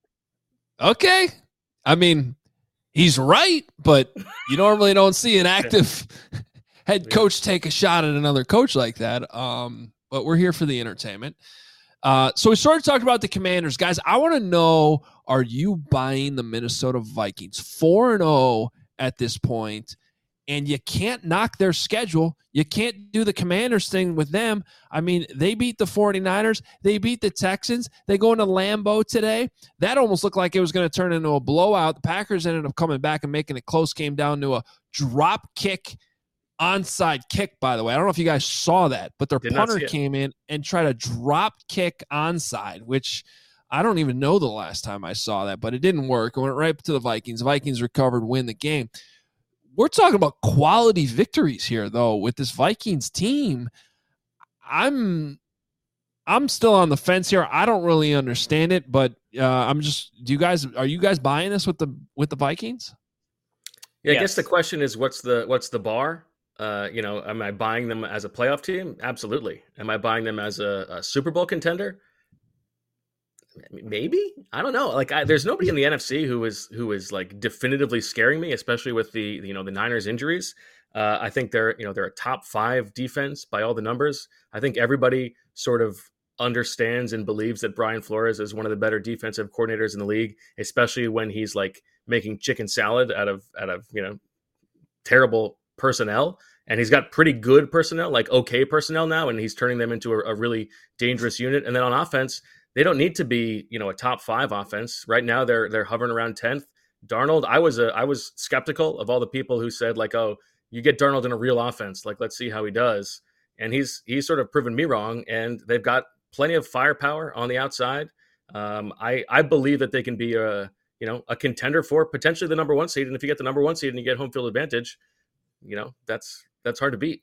okay. I mean, he's right, but you normally don't see an active head Yeah. coach take a shot at another coach like that. Um, but we're here for the entertainment. Uh, so we started talking about the Commanders. Guys, I want to know, are you buying the Minnesota Vikings? four and oh at this point, and you can't knock their schedule. You can't do the Commanders thing with them. I mean, they beat the 49ers. They beat the Texans. They go into Lambeau today. That almost looked like it was going to turn into a blowout. The Packers ended up coming back and making it close, came down to a drop kick onside kick, by the way. I don't know if you guys saw that, but their Did not punter see it. came in and tried a drop kick onside, which I don't even know the last time I saw that, but it didn't work. It went right to the Vikings. The Vikings recovered, win the game. We're talking about quality victories here, though, with this Vikings team. I'm I'm still on the fence here. I don't really understand it, but uh, I'm just. Do you guys are you guys buying this with the with the Vikings? Yeah, I Yes. guess the question is, what's the what's the bar? Uh, you know, am I buying them as a playoff team? Absolutely. Am I buying them as a, a Super Bowl contender? Maybe. I don't know. Like, I, there's nobody in the N F C who is who is like definitively scaring me, especially with the you know the Niners injuries. Uh, I think they're you know they're a top five defense by all the numbers. I think everybody sort of understands and believes that Brian Flores is one of the better defensive coordinators in the league, especially when he's like making chicken salad out of out of you know terrible personnel. And he's got pretty good personnel, like okay personnel now, and he's turning them into a, a really dangerous unit. And then on offense, they don't need to be, you know, a top five offense. Right now, they're they're hovering around tenth. Darnold, I was a I was skeptical of all the people who said like, oh, you get Darnold in a real offense, like let's see how he does. And he's he's sort of proven me wrong. And they've got plenty of firepower on the outside. Um, I I believe that they can be a you know a contender for potentially the number one seed. And if you get the number one seed and you get home field advantage, you know that's that's hard to beat.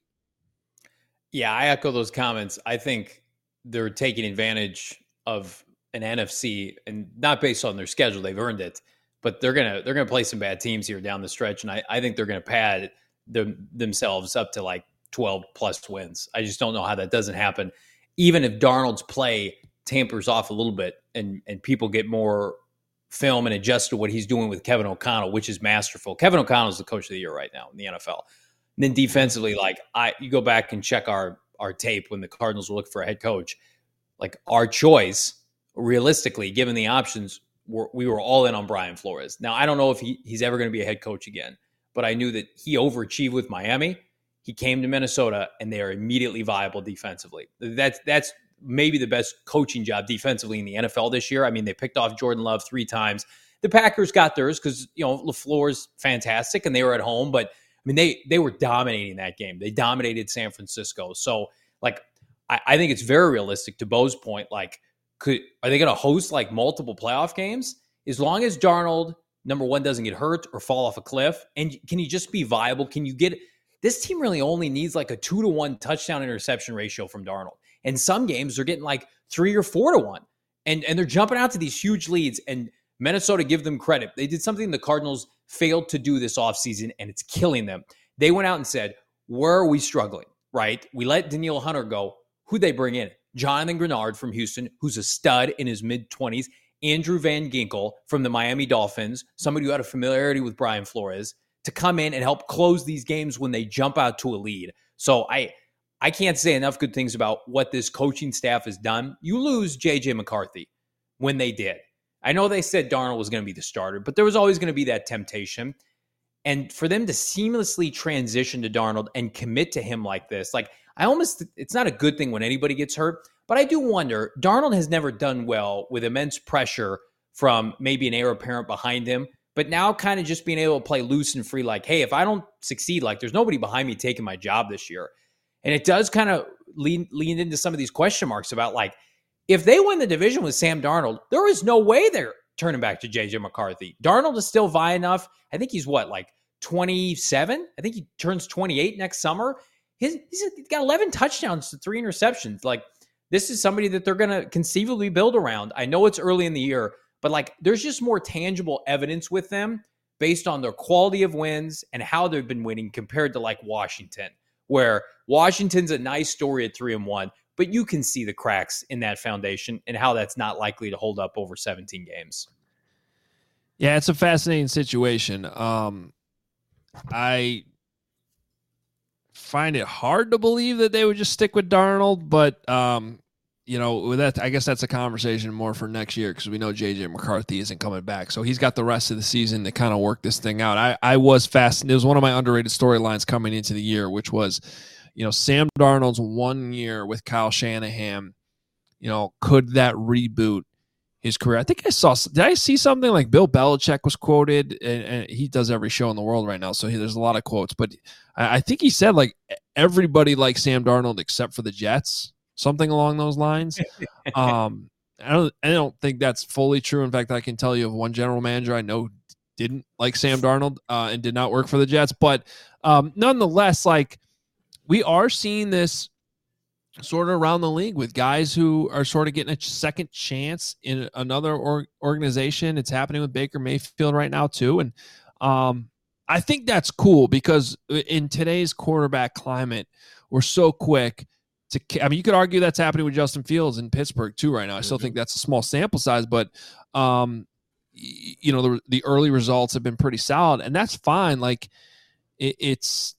Yeah, I echo those comments. I think they're taking advantage of an N F C, and not based on their schedule, they've earned it, but they're gonna they're gonna play some bad teams here down the stretch, and I, I think they're gonna pad them, themselves up to like twelve plus wins. I just don't know how that doesn't happen, even if Darnold's play tampers off a little bit, and and people get more film and adjust to what he's doing with Kevin O'Connell, which is masterful. Kevin O'Connell is the coach of the year right now in the N F L. And then defensively, like I, you go back and check our our tape when the Cardinals were looking for a head coach. Like our choice, realistically, given the options, we're, we were all in on Brian Flores. Now, I don't know if he, he's ever going to be a head coach again, but I knew that he overachieved with Miami. He came to Minnesota, and they are immediately viable defensively. That's that's maybe the best coaching job defensively in the N F L this year. I mean, they picked off Jordan Love three times. The Packers got theirs because, you know, LaFleur's fantastic, and they were at home, but I mean, they they were dominating that game. They dominated San Francisco. So, like, I, I think it's very realistic to Bo's point. Like, could are they going to host like multiple playoff games? As long as Darnold number one, doesn't get hurt or fall off a cliff? And can he just be viable? Can you get this team really only needs like a two to one touchdown interception ratio from Darnold. And some games they're getting like three or four to one. And, and they're jumping out to these huge leads. And Minnesota, give them credit. They did something the Cardinals failed to do this offseason, and it's killing them. They went out and said, where are we struggling, right? We let Danielle Hunter go. Who'd they bring in? Jonathan Grenard from Houston, who's a stud in his mid-twenties. Andrew Van Ginkel from the Miami Dolphins, somebody who had a familiarity with Brian Flores, to come in and help close these games when they jump out to a lead. So I I can't say enough good things about what this coaching staff has done. You lose J J McCarthy when they did. I know they said Darnold was going to be the starter, but there was always going to be that temptation. And for them to seamlessly transition to Darnold and commit to him like this, like I almost, it's not a good thing when anybody gets hurt, but I do wonder, Darnold has never done well with immense pressure from maybe an heir apparent behind him, but now kind of just being able to play loose and free, like, hey, if I don't succeed, like there's nobody behind me taking my job this year. And it does kind of lean, lean into some of these question marks about like, if they win the division with Sam Darnold, there is no way they're turning back to J J McCarthy. Darnold is still vi enough. I think he's what, like twenty-seven? I think he turns twenty-eight next summer. His, he's got eleven touchdowns to three interceptions. Like, this is somebody that they're going to conceivably build around. I know it's early in the year, but like there's just more tangible evidence with them based on their quality of wins and how they've been winning compared to like Washington, where Washington's a nice story at three and one, but you can see the cracks in that foundation and how that's not likely to hold up over seventeen games. Yeah, it's a fascinating situation. Um, I find it hard to believe that they would just stick with Darnold, but um, you know, with that, I guess that's a conversation more for next year because we know J J McCarthy isn't coming back, so he's got the rest of the season to kind of work this thing out. I, I was fascinated. It was one of my underrated storylines coming into the year, which was, you know, Sam Darnold's one year with Kyle Shanahan. You know, could that reboot his career? I think I saw. Did I see something like Bill Belichick was quoted, and, and he does every show in the world right now, so he, there's a lot of quotes. But I, I think he said like everybody likes Sam Darnold except for the Jets, something along those lines. um, I don't. I don't think that's fully true. In fact, I can tell you of one general manager I know didn't like Sam Darnold uh, and did not work for the Jets. But um, nonetheless, like we are seeing this sort of around the league with guys who are sort of getting a second chance in another or- organization. It's happening with Baker Mayfield right now too. And um, I think that's cool because in today's quarterback climate, we're so quick to, I mean, you could argue that's happening with Justin Fields in Pittsburgh too right now. I still mm-hmm. think that's a small sample size, but um, you know, the, the early results have been pretty solid and that's fine. Like it, it's,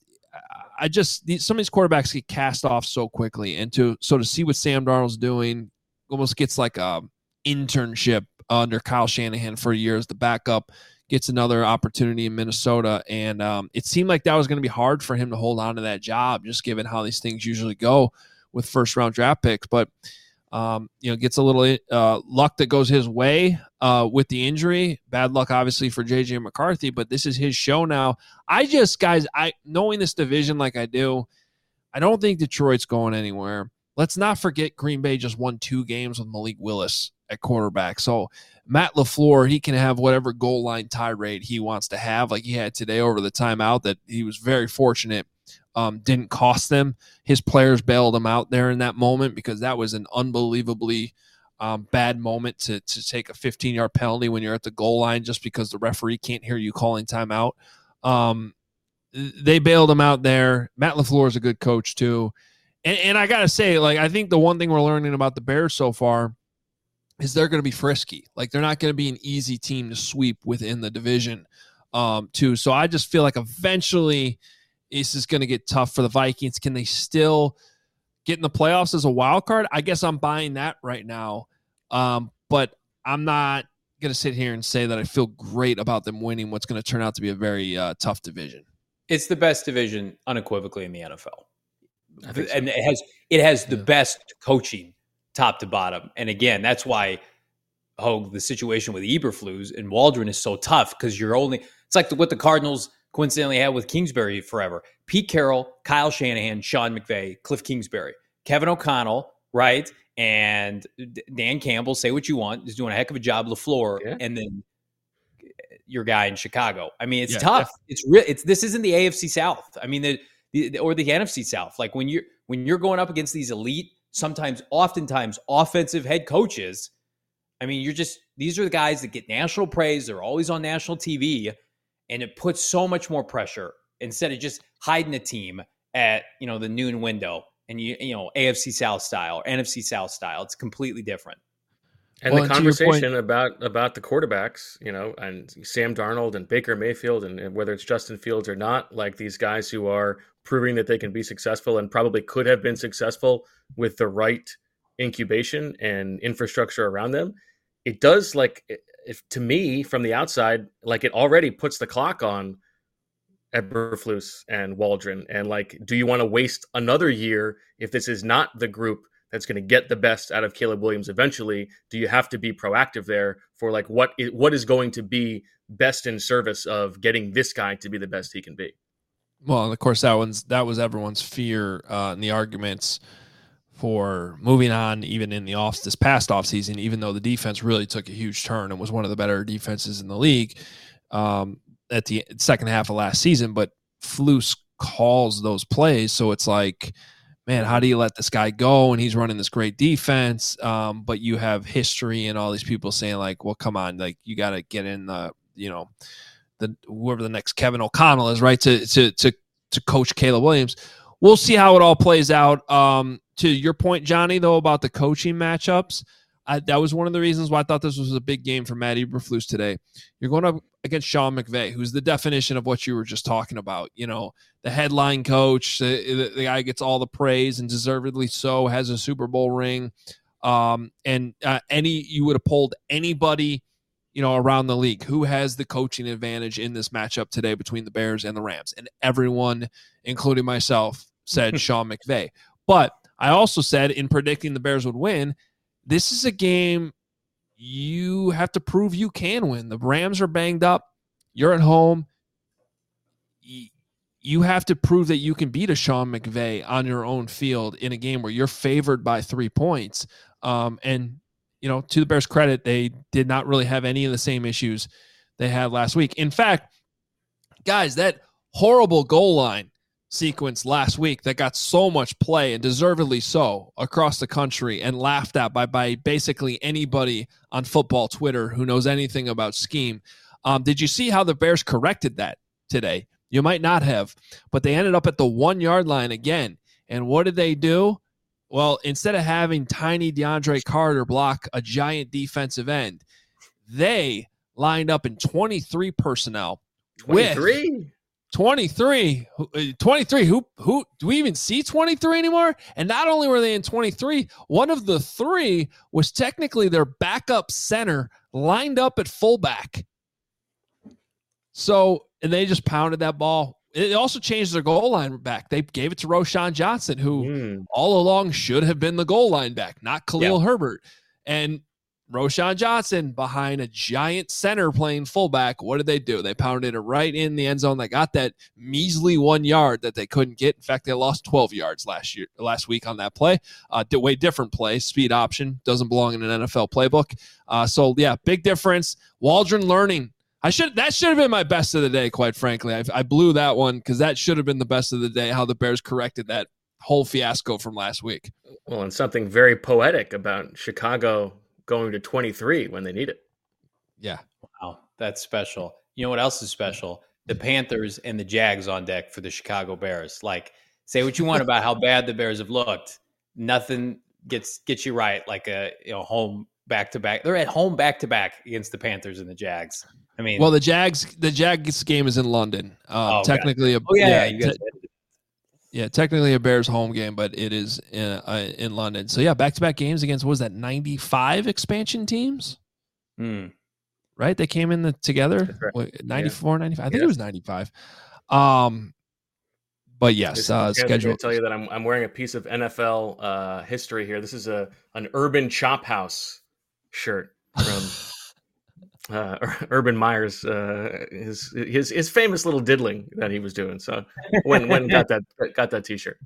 I just some of these quarterbacks get cast off so quickly, and to so to see what Sam Darnold's doing almost gets like a internship under Kyle Shanahan for a year as the backup, gets another opportunity in Minnesota, and um, it seemed like that was going to be hard for him to hold on to that job, just given how these things usually go with first round draft picks. But um, you know, gets a little uh, luck that goes his way uh, with the injury. Bad luck, obviously, for J J McCarthy, but this is his show now. I just, guys, I knowing this division like I do, I don't think Detroit's going anywhere. Let's not forget Green Bay just won two games with Malik Willis at quarterback. So Matt LaFleur, he can have whatever goal line tirade he wants to have, like he had today over the timeout that he was very fortunate Um, didn't cost them. His players bailed him out there in that moment because that was an unbelievably um, bad moment to to take a fifteen-yard penalty when you're at the goal line just because the referee can't hear you calling timeout. Um, they bailed him out there. Matt LaFleur is a good coach too. And, and I got to say, like, I think the one thing we're learning about the Bears so far is they're going to be frisky. Like, they're not going to be an easy team to sweep within the division um, too. So I just feel like eventually – this is going to get tough for the Vikings. Can they still get in the playoffs as a wild card? I guess I'm buying that right now. Um, but I'm not going to sit here and say that I feel great about them winning what's going to turn out to be a very uh, tough division. It's the best division unequivocally in the N F L. So. And it has it has the yeah. best coaching top to bottom. And again, that's why oh, the situation with Eberflus and Waldron is so tough because you're only – it's like the, what the Cardinals – coincidentally had with Kingsbury forever. Pete Carroll, Kyle Shanahan, Sean McVay, Cliff Kingsbury, Kevin O'Connell, right? And Dan Campbell, say what you want, is doing a heck of a job, LaFleur. Yeah. And then your guy in Chicago. I mean, it's Yeah, tough. yeah. It's real. It's this isn't the A F C South. I mean, the, the or the N F C South. Like when you're when you're going up against these elite, sometimes, oftentimes, offensive head coaches. I mean, you're just these are the guys that get national praise. They're always on national T V, and it puts so much more pressure instead of just hiding a team at you know the noon window and you you know A F C South style or N F C South style. It's completely different. And Well, the and to your point- conversation about about the quarterbacks, you know, and Sam Darnold and Baker Mayfield, and, and whether it's Justin Fields or not, like these guys who are proving that they can be successful and probably could have been successful with the right incubation and infrastructure around them. It does, like, if to me from the outside, like it already puts the clock on Eberflus and Waldron. And like, do you want to waste another year if this is not the group that's going to get the best out of Caleb Williams eventually? Do you have to be proactive there for like what is, what is going to be best in service of getting this guy to be the best he can be? Well, and of course, that one's that was everyone's fear uh, in the arguments for moving on, even in the off this past offseason, even though the defense really took a huge turn and was one of the better defenses in the league um, at the second half of last season. But Flus calls those plays, so it's like, man, how do you let this guy go? And he's running this great defense, um, but you have history and all these people saying like, well, come on, like you got to get in the, you know, the whoever the next Kevin O'Connell is, right, to to to to coach Caleb Williams. We'll see how it all plays out. Um, to your point, Johnny, though, about the coaching matchups, I, that was one of the reasons why I thought this was a big game for Matt Eberflus today. You're going up against Sean McVay, who's the definition of what you were just talking about. You know, the headline coach, the, the, the guy gets all the praise and deservedly so, has a Super Bowl ring. Um, and uh, any you would have polled anybody, you know, around the league who has the coaching advantage in this matchup today between the Bears and the Rams. And everyone, including myself, said Sean McVay. But I also said in predicting the Bears would win, this is a game you have to prove you can win. The Rams are banged up. You're at home. You have to prove that you can beat a Sean McVay on your own field in a game where you're favored by three points. Um, and, you know, to the Bears' credit, they did not really have any of the same issues they had last week. In fact, guys, that horrible goal line sequence last week that got so much play, and deservedly so, across the country and laughed at by, by basically anybody on football Twitter who knows anything about scheme. Um, did you see how the Bears corrected that today? You might not have, but they ended up at the one-yard line again. And what did they do? Well, instead of having tiny DeAndre Carter block a giant defensive end, they lined up in twenty-three personnel. twenty-three? With twenty-three. twenty-three. Who, who, do we even see twenty-three anymore? And not only were they in twenty-three, one of the three was technically their backup center lined up at fullback. So, and they just pounded that ball. It also changed their goal line back. They gave it to Roschon Johnson, who mm. all along should have been the goal line back, not Khalil yeah. Herbert. And Roschon Johnson behind a giant center playing fullback. What did they do? They pounded it right in the end zone. They got that measly one yard that they couldn't get. In fact, they lost twelve yards last year, last week on that play. Uh, way different play, speed option, doesn't belong in an N F L playbook. Uh, so yeah, big difference. Waldron learning. I should that should have been my best of the day, quite frankly. I, I blew that one because that should have been the best of the day. How the Bears corrected that whole fiasco from last week. Well, and something very poetic about Chicago going to twenty-three when they need it. Yeah. Wow. That's special. You know what else is special? The Panthers and the Jags on deck for the Chicago Bears. Like, say what you want about how bad the Bears have looked. Nothing gets gets you right like a you know home back-to-back. They're at home back-to-back against the Panthers and the Jags. I mean, well, the Jags the Jags game is in London. Um, oh, technically, a, oh yeah, yeah, you guys te- yeah, technically a Bears home game, but it is in, uh, in London. So yeah, back-to-back games against what was that ninety-five expansion teams? Hmm. Right, they came in the together right. ninety-four, yeah. ninety-five. I think yeah. it was ninety-five. Um, but yes, uh, schedule. I tell you that I'm I'm wearing a piece of N F L uh, history here. This is a an Urban Chop House shirt from. Uh, Urban Meyer's uh, his his his famous little diddling that he was doing. So when when got that got that T-shirt.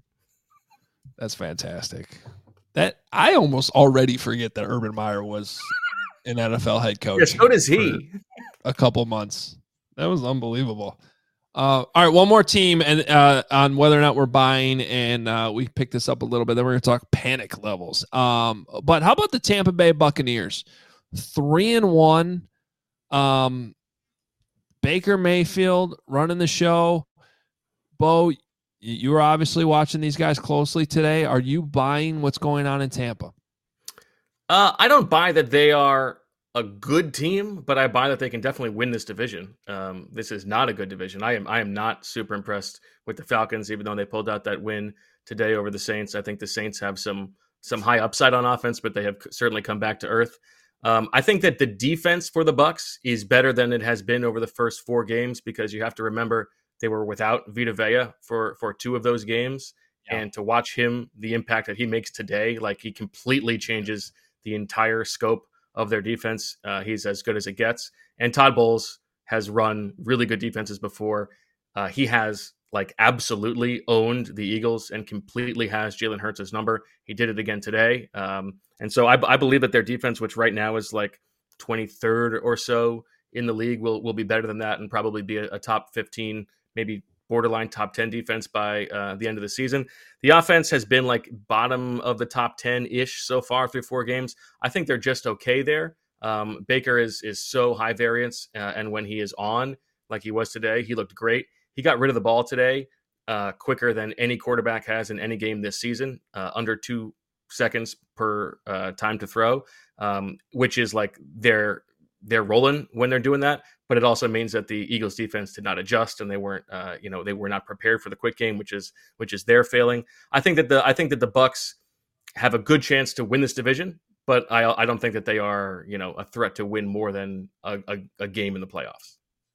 That's fantastic. That I almost already forget that Urban Meyer was in N F L head coach. Yeah, so does he. A couple months. That was unbelievable. Uh, all right, one more team and uh, on whether or not we're buying, and uh, we picked this up a little bit. Then we're going to talk panic levels. Um, but how about the Tampa Bay Buccaneers? Three and one. Um, Baker Mayfield running the show. Bo, you were obviously watching these guys closely today. Are you buying what's going on in Tampa? Uh, I don't buy that they are a good team, but I buy that they can definitely win this division. Um, this is not a good division. I am I am not super impressed with the Falcons, even though they pulled out that win today over the Saints. I think the Saints have some some high upside on offense, but they have certainly come back to earth. Um, I think that the defense for the Bucs is better than it has been over the first four games, because you have to remember they were without Vita Vea for for two of those games, yeah. And to watch him, the impact that he makes today, like he completely changes the entire scope of their defense. Uh, he's as good as it gets. And Todd Bowles has run really good defenses before. Uh, he has like absolutely owned the Eagles and completely has Jalen Hurts' number. He did it again today. Um, and so I, I believe that their defense, which right now is like twenty-third or so in the league, will will be better than that and probably be a, a top fifteen, maybe borderline top ten defense by uh, the end of the season. The offense has been like bottom of the top ten-ish so far through four games. I think they're just okay there. Um, Baker is is so high variance, uh, and when he is on, like he was today, he looked great. He got rid of the ball today uh, quicker than any quarterback has in any game this season, uh, under two seconds per uh, time to throw, um, which is like they're they're rolling when they're doing that. But it also means that the Eagles defense did not adjust, and they weren't, uh, you know, they were not prepared for the quick game, which is which is their failing. I think that the I think that the Bucs have a good chance to win this division, but I I don't think that they are, you know, a threat to win more than a, a, a game in the playoffs.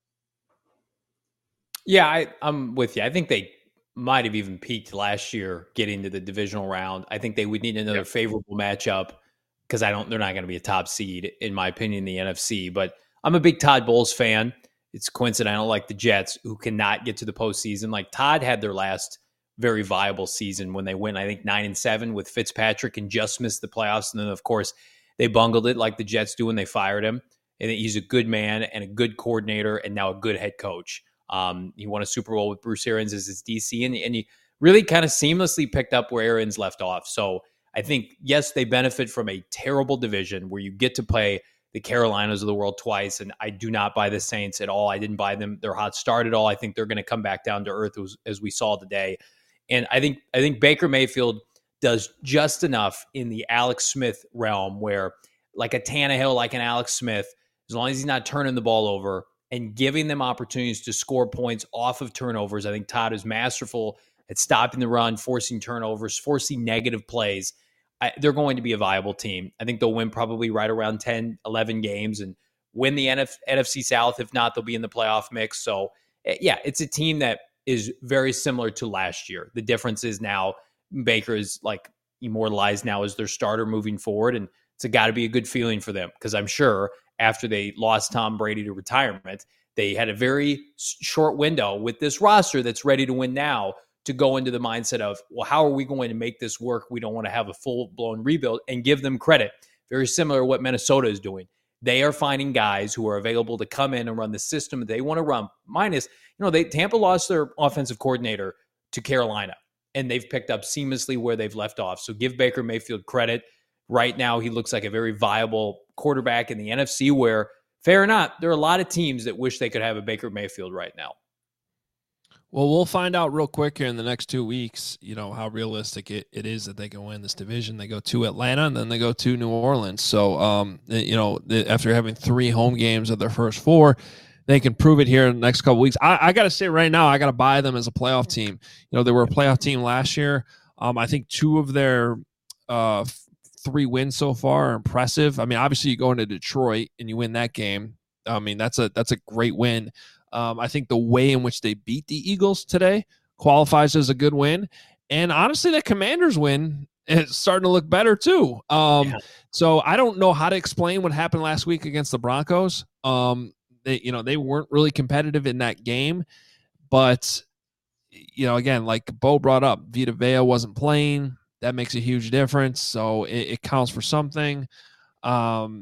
Yeah, I, I'm with you. I think they might have even peaked last year getting to the divisional round. I think they would need another yep. favorable matchup, because I don't. They're not going to be a top seed, in my opinion, in the N F C. But I'm a big Todd Bowles fan. It's coincidental, like the Jets, who cannot get to the postseason. Like Todd had their last very viable season when they went, I think, nine and seven with Fitzpatrick and just missed the playoffs. And then, of course, they bungled it like the Jets do when they fired him. And he's a good man and a good coordinator and now a good head coach. Um, he won a Super Bowl with Bruce Arians as his D C, and, and he really kind of seamlessly picked up where Arians left off. So I think, yes, they benefit from a terrible division where you get to play the Carolinas of the world twice, and I do not buy the Saints at all. I didn't buy them their hot start at all. I think they're going to come back down to earth as, as we saw today. And I think I think Baker Mayfield does just enough in the Alex Smith realm where, like a Tannehill, like an Alex Smith, as long as he's not turning the ball over and giving them opportunities to score points off of turnovers. I think Todd is masterful at stopping the run, forcing turnovers, forcing negative plays. I, they're going to be a viable team. I think they'll win probably right around ten, eleven games and win the N F- N F C South. If not, they'll be in the playoff mix. So, yeah, it's a team that is very similar to last year. The difference is now Baker is like immortalized now as their starter moving forward, and it's got to be a good feeling for them, because I'm sure after they lost Tom Brady to retirement, they had a very short window with this roster that's ready to win now to go into the mindset of, well, how are we going to make this work? We don't want to have a full-blown rebuild, and give them credit. Very similar to what Minnesota is doing. They are finding guys who are available to come in and run the system they want to run. Minus, you know, they Tampa lost their offensive coordinator to Carolina, and they've picked up seamlessly where they've left off. So give Baker Mayfield credit. Right now, he looks like a very viable quarterback in the N F C, where, fair or not, there are a lot of teams that wish they could have a Baker Mayfield right now. Well, we'll find out real quick here in the next two weeks, you know, how realistic it, it is that they can win this division. They go to Atlanta, and then they go to New Orleans. So, um, you know, after having three home games of their first four, they can prove it here in the next couple weeks. I, I got to say right now, I got to buy them as a playoff team. You know, they were a playoff team last year. Um, I think two of their uh, three wins so far are impressive. I mean, obviously you go into Detroit and you win that game. I mean, that's a that's a great win. Um, I think the way in which they beat the Eagles today qualifies as a good win. And honestly, that Commanders win is starting to look better too. Um, yeah. So I don't know how to explain what happened last week against the Broncos. Um, they, you know, they weren't really competitive in that game, but you know, again, like Bo brought up, Vita Vea wasn't playing. That makes a huge difference. So it, it counts for something. Um,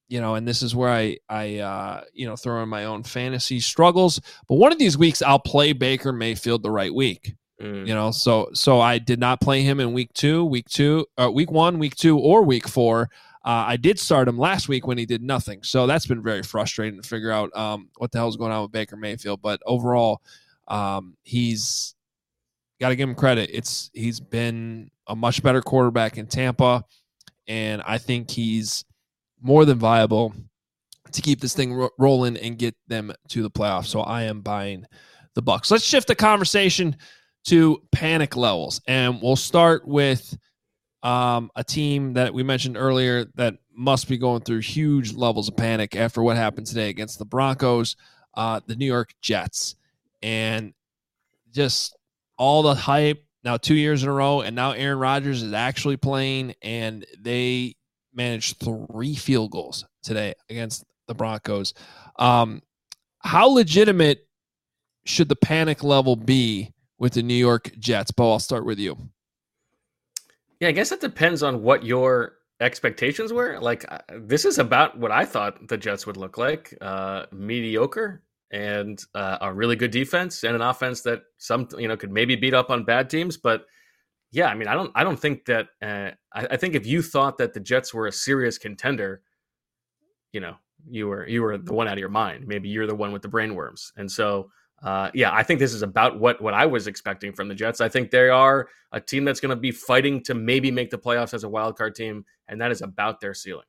you know, and this is where I, I, uh, you know, throw in my own fantasy struggles. But one of these weeks, I'll play Baker Mayfield the right week. Mm. You know, so so I did not play him in week two, week two, uh, week one, week two, or week four. Uh, I did start him last week when he did nothing. So that's been very frustrating to figure out um, what the hell is going on with Baker Mayfield. But overall, um, he's got to give him credit. It's he's been a much better quarterback in Tampa, and I think he's more than viable to keep this thing ro- rolling and get them to the playoffs. So I am buying the Bucs. Let's shift the conversation to panic levels, and we'll start with um, a team that we mentioned earlier that must be going through huge levels of panic after what happened today against the Broncos, uh, the New York Jets, and just all the hype now two years in a row, and now Aaron Rodgers is actually playing, and they managed three field goals today against the Broncos. Um, how legitimate should the panic level be with the New York Jets? Bo, I'll start with you. Yeah, I guess it depends on what your expectations were. Like, this is about what I thought the Jets would look like. Uh, mediocre and uh, a really good defense and an offense that some, you know, could maybe beat up on bad teams. But yeah, I mean, I don't, I don't think that, uh, I, I think if you thought that the Jets were a serious contender, you know, you were, you were the one out of your mind. Maybe you're the one with the brainworms. And so, Uh, yeah, I think this is about what, what I was expecting from the Jets. I think they are a team that's going to be fighting to maybe make the playoffs as a wild card team, and that is about their ceiling.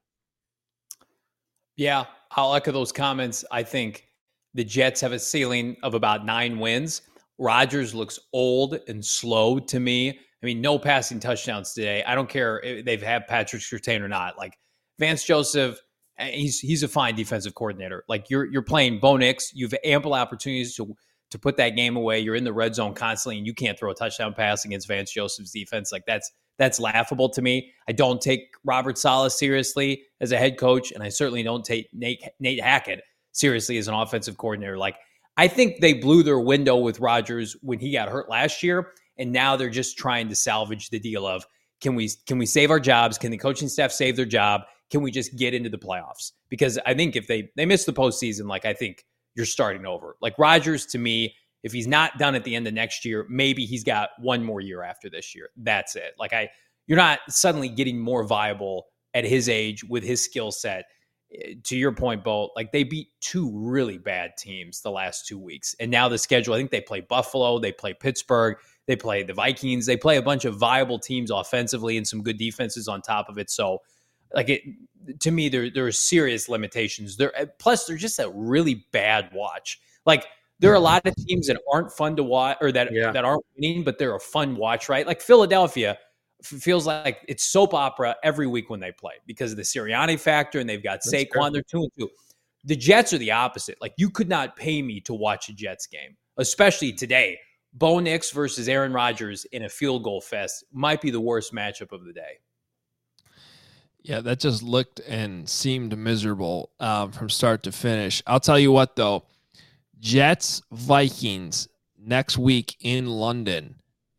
Yeah, I'll echo those comments. I think the Jets have a ceiling of about nine wins. Rodgers looks old and slow to me. I mean, no passing touchdowns today. I don't care if they've had Patrick Surtain or not. Like Vance Joseph, he's he's a fine defensive coordinator. Like you're you're playing Bo Nix. You have ample opportunities to to put that game away. You're in the red zone constantly, and you can't throw a touchdown pass against Vance Joseph's defense. Like that's that's laughable to me. I don't take Robert Saleh seriously as a head coach, and I certainly don't take Nate, Nate Hackett seriously as an offensive coordinator. Like I think they blew their window with Rodgers when he got hurt last year, and now they're just trying to salvage the deal of can we can we save our jobs? Can the coaching staff save their job? Can we just get into the playoffs? Because I think if they they miss the postseason, like I think you're starting over. Like Rodgers, to me, if he's not done at the end of next year, maybe he's got one more year after this year. That's it. Like I, you're not suddenly getting more viable at his age with his skill set. To your point, Bo, like they beat two really bad teams the last two weeks, and now the schedule. I think they play Buffalo, they play Pittsburgh, they play the Vikings, they play a bunch of viable teams offensively and some good defenses on top of it. So. Like it, to me, there there are serious limitations. There, plus they're just a really bad watch. Like there are a lot of teams that aren't fun to watch or that yeah. that aren't winning, but they're a fun watch, right? Like Philadelphia f- feels like it's soap opera every week when they play because of the Sirianni factor, and they've got That's Saquon. True. They're two and two. The Jets are the opposite. Like you could not pay me to watch a Jets game, especially today. Bo Nix versus Aaron Rodgers in a field goal fest might be the worst matchup of the day. Yeah, that just looked and seemed miserable um, from start to finish. I'll tell you what, though. Jets, Vikings next week in London.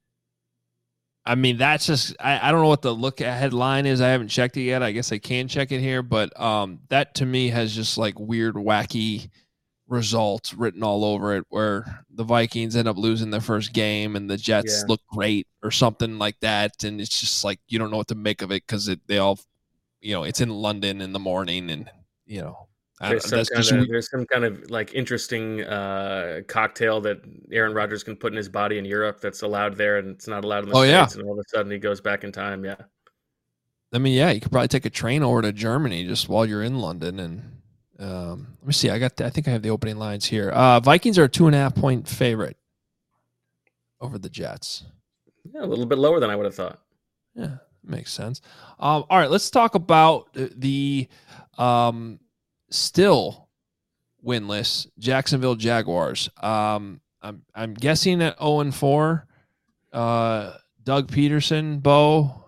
I mean, that's just, I, I don't know what the look ahead line is. I haven't checked it yet. I guess I can check it here. But um, that to me has just like weird, wacky results written all over it where the Vikings end up losing their first game and the Jets yeah. look great or something like that. And it's just like you don't know what to make of it because it, they all, you know, it's in London in the morning and, you know, there's some, kind of, there's some kind of like interesting uh, cocktail that Aaron Rodgers can put in his body in Europe that's allowed there and it's not allowed in the oh, States. Yeah. And all of a sudden he goes back in time. Yeah. I mean, yeah, you could probably take a train over to Germany just while you're in London. And um, let me see. I got, the, I think I have the opening lines here. Uh, Vikings are a two and a half point favorite over the Jets. Yeah, a little bit lower than I would have thought. Yeah. Makes sense. Um, all right, let's talk about the um, still winless Jacksonville Jaguars. Um, I'm I'm guessing at zero and four. Uh, Doug Peterson, Bo,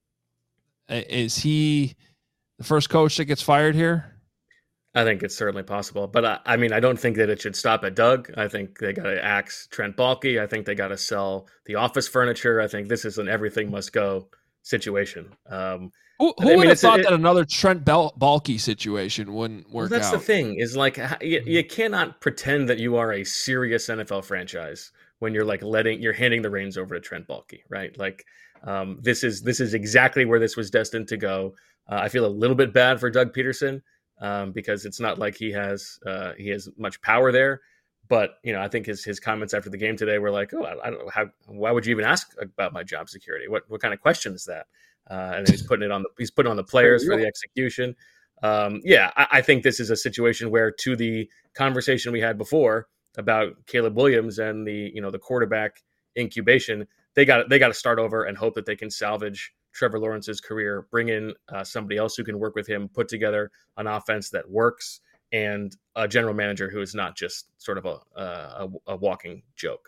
is he the first coach that gets fired here? I think it's certainly possible, but I, I mean, I don't think that it should stop at Doug. I think they got to axe Trent Baalke. I think they got to sell the office furniture. I think this is an everything must go situation. Um, Who, who I mean, would have it's a- thought it- that another Trent Bal- Balky situation wouldn't Well, work that's out? the thing is like h- you, you cannot pretend that you are a serious N F L franchise when you're like letting you're handing the reins over to Trent Baalke, right? Like um, this is this is exactly where this was destined to go. Uh, I feel a little bit bad for Doug Peterson um, because it's not like he has uh, he has much power there. But you know, I think his his comments after the game today were like, "Oh, I, I don't know how. Why would you even ask about my job security? What what kind of question is that?" Uh, and then he's putting it on the he's putting on the players for the execution. Um, yeah, I, I think this is a situation where, to the conversation we had before about Caleb Williams and the you know the quarterback incubation, they got they got to start over and hope that they can salvage Trevor Lawrence's career, bring in uh, somebody else who can work with him, put together an offense that works, and a general manager who is not just sort of a a, a walking joke.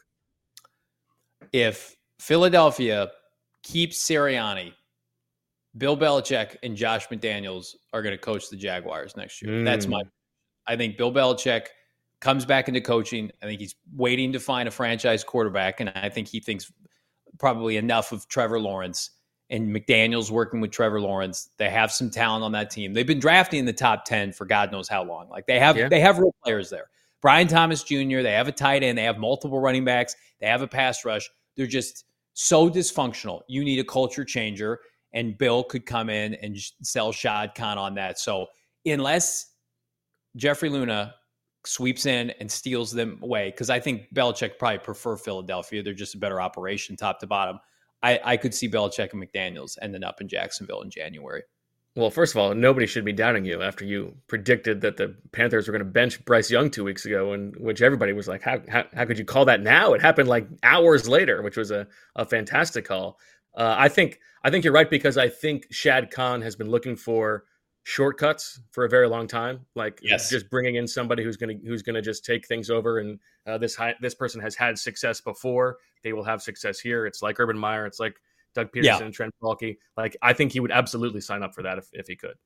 If Philadelphia keeps Sirianni, Bill Belichick and Josh McDaniels are going to coach the Jaguars next year. Mm. That's my. I think Bill Belichick comes back into coaching. I think he's waiting to find a franchise quarterback, and I think he thinks probably enough of Trevor Lawrence. And McDaniels working with Trevor Lawrence. They have some talent on that team. They've been drafting in the top ten for God knows how long. Like they have, yeah. they have real players there. Brian Thomas Junior They have a tight end. They have multiple running backs. They have a pass rush. They're just so dysfunctional. You need a culture changer. And Bill could come in and sell Shad Khan on that. So unless Jeffrey Luna sweeps in and steals them away, because I think Belichick probably prefer Philadelphia. They're just a better operation top to bottom. I, I could see Belichick and McDaniels ending up in Jacksonville in January. Well, first of all, nobody should be doubting you after you predicted that the Panthers were going to bench Bryce Young two weeks ago, and which everybody was like, how, how, how could you call that now? It happened like hours later, which was a, a fantastic call. Uh, I think I think you're right, because I think Shad Khan has been looking for shortcuts for a very long time, like yes. just bringing in somebody who's going to who's going to just take things over. And uh, this high, this person has had success before; they will have success here. It's like Urban Meyer, it's like Doug Peterson, yeah. and Trent Baalke. Like I think he would absolutely sign up for that if, if he could.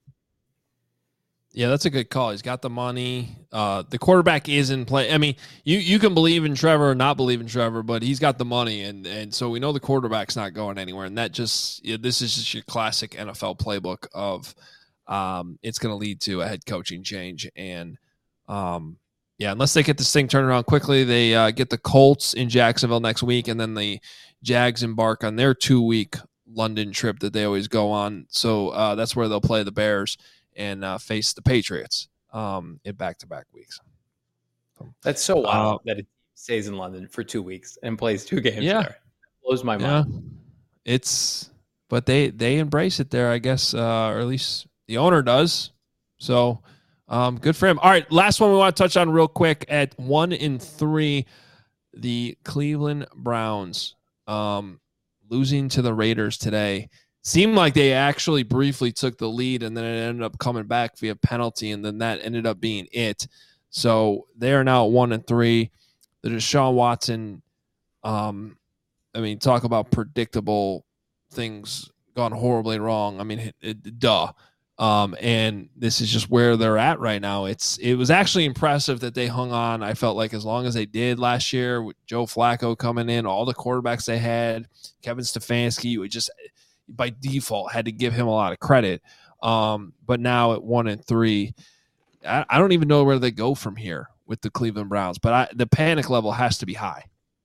Yeah, that's a good call. He's got the money. Uh, the quarterback is in play. I mean, you, you can believe in Trevor or not believe in Trevor, but he's got the money, and and so we know the quarterback's not going anywhere. And that just yeah, this is just your classic N F L playbook of um, it's going to lead to a head coaching change. And um, yeah, unless they get this thing turned around quickly, they uh, get the Colts in Jacksonville next week, and then the Jags embark on their two week London trip that they always go on. So uh, that's where they'll play the Bears and uh, face the Patriots um, in back-to-back weeks. That's so wild uh, that it stays in London for two weeks and plays two games yeah. there. It blows my mind. Yeah. It's, but they they embrace it there, I guess, uh, or at least the owner does. So um, good for him. All right, last one we want to touch on real quick. At one in three, the Cleveland Browns um, losing to the Raiders today. Seemed like they actually briefly took the lead, and then it ended up coming back via penalty, and then that ended up being it. So they are now at one and three. The Deshaun Watson, um, I mean, talk about predictable things gone horribly wrong. I mean, it, it, duh. Um, and this is just where they're at right now. It's it was actually impressive that they hung on. I felt like as long as they did last year with Joe Flacco coming in, all the quarterbacks they had, Kevin Stefanski, you would just by default had to give him a lot of credit. Um, but now at one and three, I, I don't even know where they go from here with the Cleveland Browns, but I, the panic level has to be high.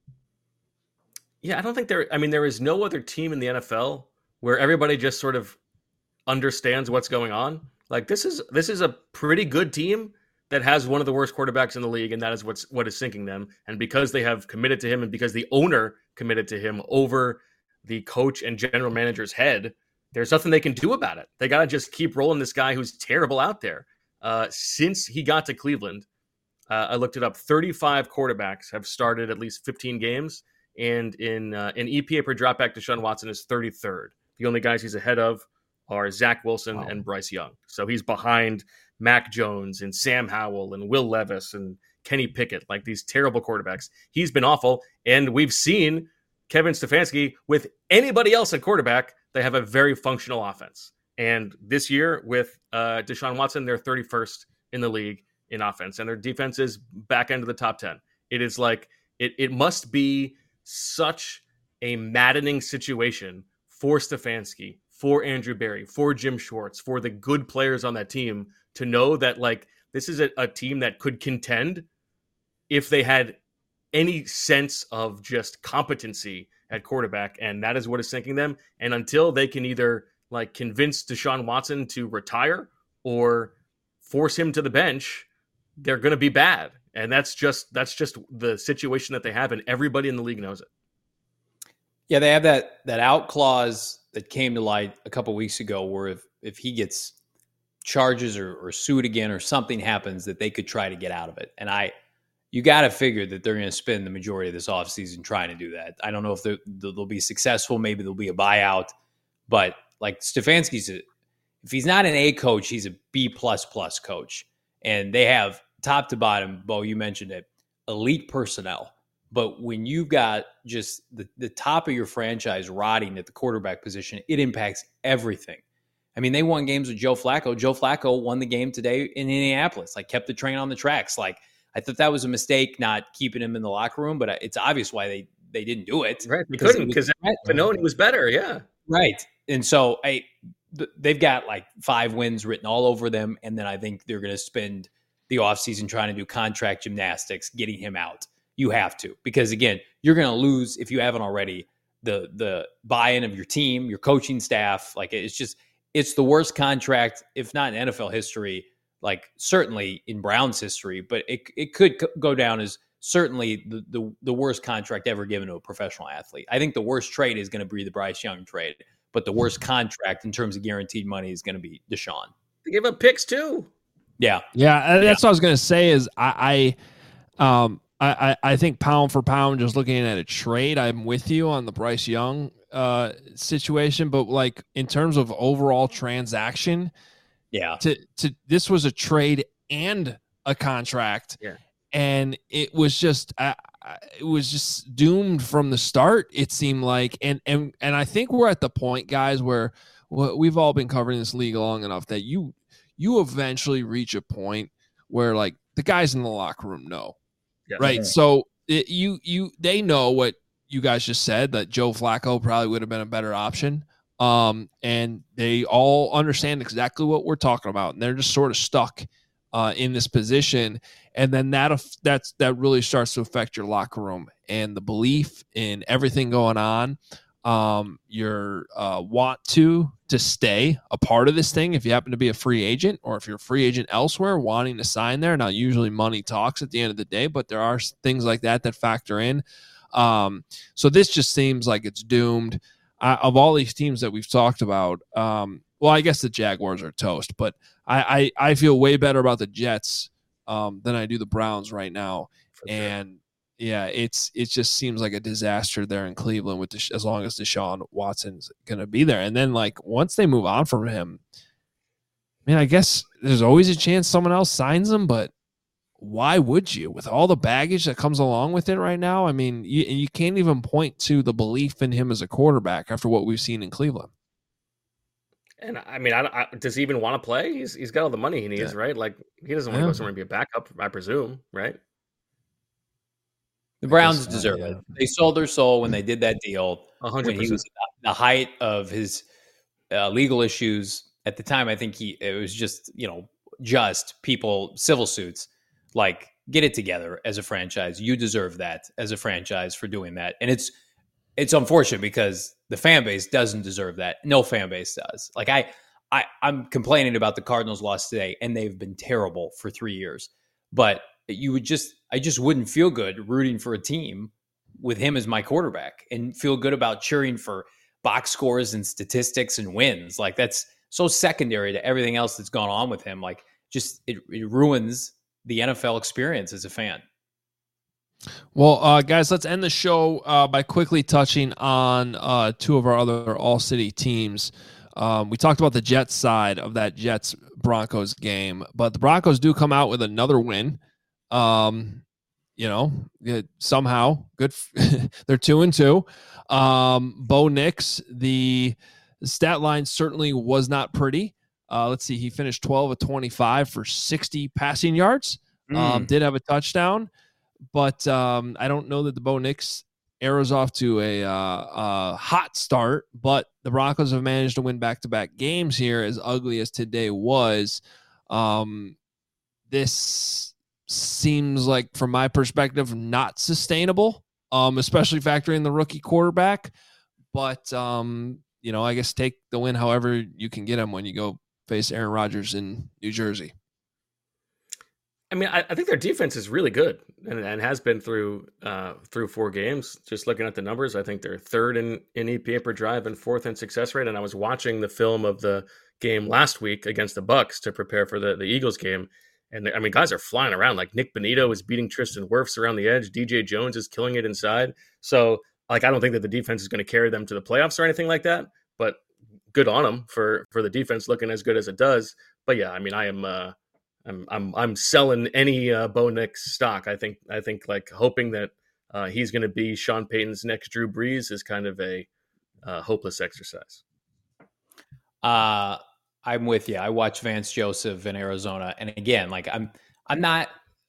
Yeah, I don't think there, I mean, there is no other team in the N F L where everybody just sort of understands what's going on. Like this is, this is a pretty good team that has one of the worst quarterbacks in the league. And that is what's, what is sinking them. And because they have committed to him and because the owner committed to him over the coach and general manager's head, there's nothing they can do about it. They got to just keep rolling this guy who's terrible out there. Uh, since he got to Cleveland, uh, I looked it up. thirty-five quarterbacks have started at least fifteen games. And in uh, in E P A per dropback, Deshaun Watson is thirty-third. The only guys he's ahead of are Zach Wilson wow. and Bryce Young. So he's behind Mac Jones and Sam Howell and Will Levis and Kenny Pickett, like these terrible quarterbacks. He's been awful. And we've seen Kevin Stefanski, with anybody else at quarterback, they have a very functional offense. And this year with uh, Deshaun Watson, they're thirty-first in the league in offense, and their defense is back end of the top ten. It is like, it, it must be such a maddening situation for Stefanski, for Andrew Berry, for Jim Schwartz, for the good players on that team to know that like this is a, a team that could contend if they had any sense of just competency at quarterback, and that is what is sinking them. And until they can either like convince Deshaun Watson to retire or force him to the bench, they're going to be bad. And that's just that's just the situation that they have, and everybody in the league knows it. Yeah, they have that that out clause that came to light a couple weeks ago, where if, if he gets charges or, or sued again or something happens, that they could try to get out of it. And I, you got to figure that they're going to spend the majority of this offseason trying to do that. I don't know if they'll be successful. Maybe there'll be a buyout, but like Stefanski's, a, if he's not an A coach, he's a B plus plus coach, and they have top to bottom. Bo, you mentioned it, elite personnel. But when you've got just the, the top of your franchise rotting at the quarterback position, it impacts everything. I mean, they won games with Joe Flacco. Joe Flacco won the game today in Indianapolis, like kept the train on the tracks. Like, I thought that was a mistake not keeping him in the locker room, but it's obvious why they, they didn't do it. Right. They couldn't because Pannone was better. Yeah. Right. And so I, they've got like five wins written all over them. And then I think they're going to spend the offseason trying to do contract gymnastics, getting him out. You have to, because again, you're going to lose if you haven't already the the buy-in of your team, your coaching staff. Like it's just, it's the worst contract, if not in N F L history, like certainly in Browns history, but it it could go down as certainly the the, the worst contract ever given to a professional athlete. I think the worst trade is going to be the Bryce Young trade, but the worst contract in terms of guaranteed money is going to be Deshaun. They give up picks too. Yeah, yeah, that's yeah. what I was going to say. Is I, I um. I, I think pound for pound, just looking at a trade, I'm with you on the Bryce Young uh, situation. But like in terms of overall transaction, yeah, to to this was a trade and a contract, yeah, and it was just uh, it was just doomed from the start. It seemed like, and and and I think we're at the point, guys, where we've all been covering this league long enough that you you eventually reach a point where like the guys in the locker room know. Yeah. Right. Mm-hmm. So it, you, you, they know what you guys just said, that Joe Flacco probably would have been a better option. Um, and they all understand exactly what we're talking about. And they're just sort of stuck uh, in this position. And then that, that's, that really starts to affect your locker room and the belief in everything going on. Um, your uh, want to to stay a part of this thing if you happen to be a free agent, or if you're a free agent elsewhere wanting to sign there. Now, usually money talks at the end of the day, but there are things like that that factor in. Um, so this just seems like it's doomed. Uh, of all these teams that we've talked about, um, well, I guess the Jaguars are toast, but I, I, I feel way better about the Jets um, than I do the Browns right now. For and sure. Yeah, it's it just seems like a disaster there in Cleveland with the, as long as Deshaun Watson's going to be there. And then, like, once they move on from him, I mean, I guess there's always a chance someone else signs him, but why would you? With all the baggage that comes along with it right now, I mean, you, you can't even point to the belief in him as a quarterback after what we've seen in Cleveland. And, I mean, I, I, does he even want to play? He's He's got all the money he needs, yeah. right? Like, he doesn't want to yeah. go somewhere and be a backup, I presume, right? The Browns deserve uh, yeah. it. They sold their soul when they did that deal. one hundred percent. When he was at the height of his uh, legal issues at the time. I think he it was just, you know, just people, civil suits. Like, get it together as a franchise. You deserve that as a franchise for doing that. And it's it's unfortunate because the fan base doesn't deserve that. No fan base does. Like, I, I, I'm complaining about the Cardinals loss today, and they've been terrible for three years. But you would just, I just wouldn't feel good rooting for a team with him as my quarterback and feel good about cheering for box scores and statistics and wins. Like, that's so secondary to everything else that's gone on with him. Like, just, it, it ruins the N F L experience as a fan. Well, uh, guys, let's end the show uh, by quickly touching on uh, two of our other all-city teams. Um, we talked about the Jets side of that Jets-Broncos game, but the Broncos do come out with another win. Um, you know, it, somehow good. F- they're two and two. Um, Bo Nix, the stat line certainly was not pretty. Uh, let's see. He finished twelve of twenty-five for sixty passing yards. Mm. Um, did have a touchdown, but um, I don't know that the Bo Nix arrows off to a, uh, a hot start, but the Broncos have managed to win back-to-back games here, as ugly as today was. Um, this seems like, from my perspective, not sustainable, um, especially factoring the rookie quarterback. But, um, you know, I guess take the win however you can get him when you go face Aaron Rodgers in New Jersey. I mean, I, I think their defense is really good and, and has been through uh, through four games. Just looking at the numbers, I think they're third in, in E P A per drive and fourth in success rate. And I was watching the film of the game last week against the Bucs to prepare for the, the Eagles game. And I mean, guys are flying around. Like Nick Bonito is beating Tristan Wirfs around the edge. D J Jones is killing it inside. So, like, I don't think that the defense is going to carry them to the playoffs or anything like that. But good on them for for the defense looking as good as it does. But yeah, I mean, I am. Uh, I'm I'm I'm selling any uh, Bo Nix stock. I think I think like hoping that uh, he's going to be Sean Payton's next Drew Brees is kind of a uh, hopeless exercise. Uh, I'm with you. I watched Vance Joseph in Arizona, and again, like I'm I'm not.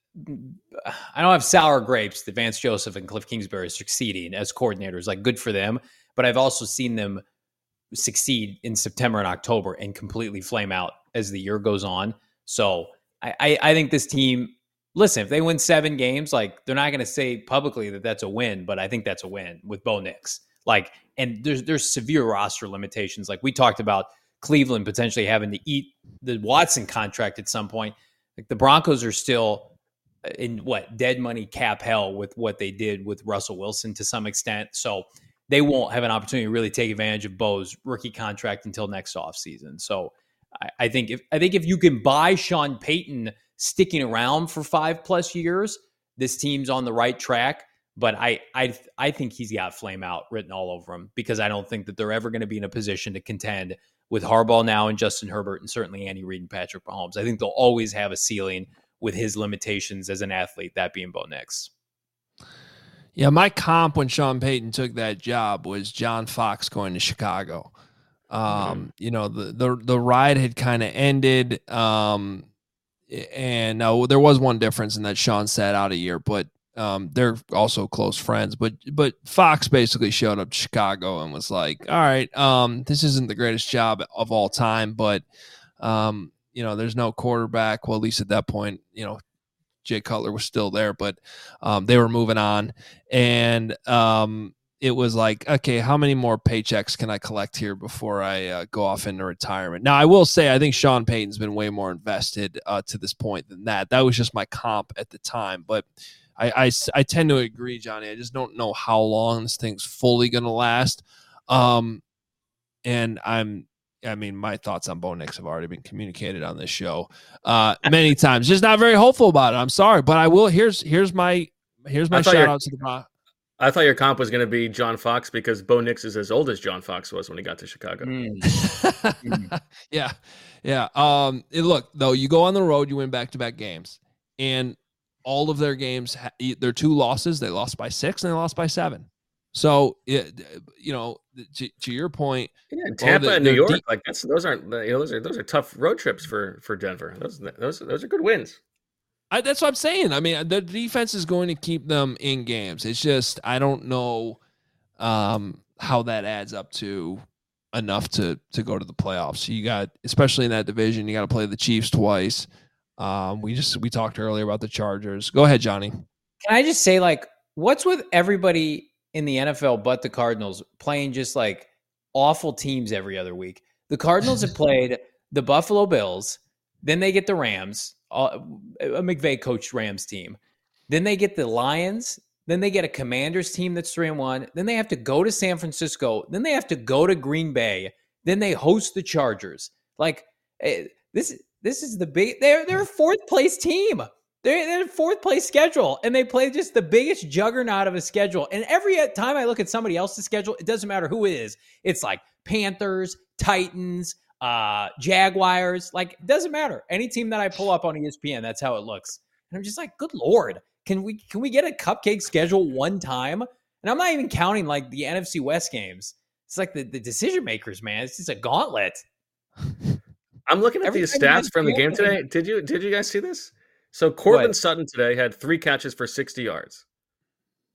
I don't have sour grapes that Vance Joseph and Cliff Kingsbury are succeeding as coordinators. Like, good for them, but I've also seen them succeed in September and October and completely flame out as the year goes on. So. I, I think this team, listen, if they win seven games, like they're not going to say publicly that that's a win, but I think that's a win with Bo Nix. Like, and there's there's severe roster limitations. Like we talked about Cleveland potentially having to eat the Watson contract at some point. Like the Broncos are still in what dead money cap hell with what they did with Russell Wilson to some extent. So they won't have an opportunity to really take advantage of Bo's rookie contract until next offseason. So I think if I think if you can buy Sean Payton sticking around for five plus years, this team's on the right track. But I I I think he's got flame out written all over him because I don't think that they're ever going to be in a position to contend with Harbaugh now and Justin Herbert and certainly Andy Reid and Patrick Mahomes. I think they'll always have a ceiling with his limitations as an athlete, that being Bo Nix. Yeah, my comp when Sean Payton took that job was John Fox going to Chicago. Um, mm-hmm. You know, the, the, the ride had kind of ended. Um, and uh, there was one difference in that Sean sat out a year, but um, they're also close friends. But but Fox basically showed up to Chicago and was like, all right, um, this isn't the greatest job of all time, but, um, you know, there's no quarterback. Well, at least at that point, you know, Jay Cutler was still there, but um, they were moving on. And um, it was like, okay, how many more paychecks can I collect here before I uh, go off into retirement? Now, I will say, I think Sean Payton's been way more invested uh, to this point than that. That was just my comp at the time. But I, I, I tend to agree, Johnny. I just don't know how long this thing's fully going to last. Um, and I'm, I mean, my thoughts on Bo Nix have already been communicated on this show uh, many times. Just not very hopeful about it. I'm sorry, but I will. Here's here's my here's my shout out to the. I thought your comp was going to be John Fox because Bo Nix is as old as John Fox was when he got to Chicago. Mm. yeah, yeah. Um, and look, though, you go on the road, you win back-to-back games, and all of their games, their two losses, they lost by six and they lost by seven. So, it, you know, to, to your point, yeah, Tampa oh, the, and New York, deep, like that's those aren't you know, those are those are tough road trips for for Denver. Those those those are good wins. I, that's what I'm saying. I mean, the defense is going to keep them in games. It's just I don't know um, how that adds up to enough to to go to the playoffs. You got, especially in that division, you got to play the Chiefs twice. Um, we just we talked earlier about the Chargers. Go ahead, Johnny. Can I just say, like, what's with everybody in the N F L but the Cardinals playing just like awful teams every other week? The Cardinals have played the Buffalo Bills, then they get the Rams, a McVay coached Rams team. Then they get the Lions, then they get a Commanders team that's three and one. Then they have to go to San Francisco, then they have to go to Green Bay, then they host the Chargers. Like this this is the big they're they're a fourth place team. They're, they're in fourth place schedule, and they play just the biggest juggernaut of a schedule. And every time I look at somebody else's schedule, it doesn't matter who it is. It's like Panthers, Titans, uh, Jaguars. Like, it doesn't matter. Any team that I pull up on E S P N, that's how it looks. And I'm just like, good Lord, can we can we get a cupcake schedule one time? And I'm not even counting like the N F C West games. It's like the, the decision makers, man. It's just a gauntlet. I'm looking at Every these stats from the game today. Did you did you guys see this? So Cortland Sutton today had three catches for sixty yards.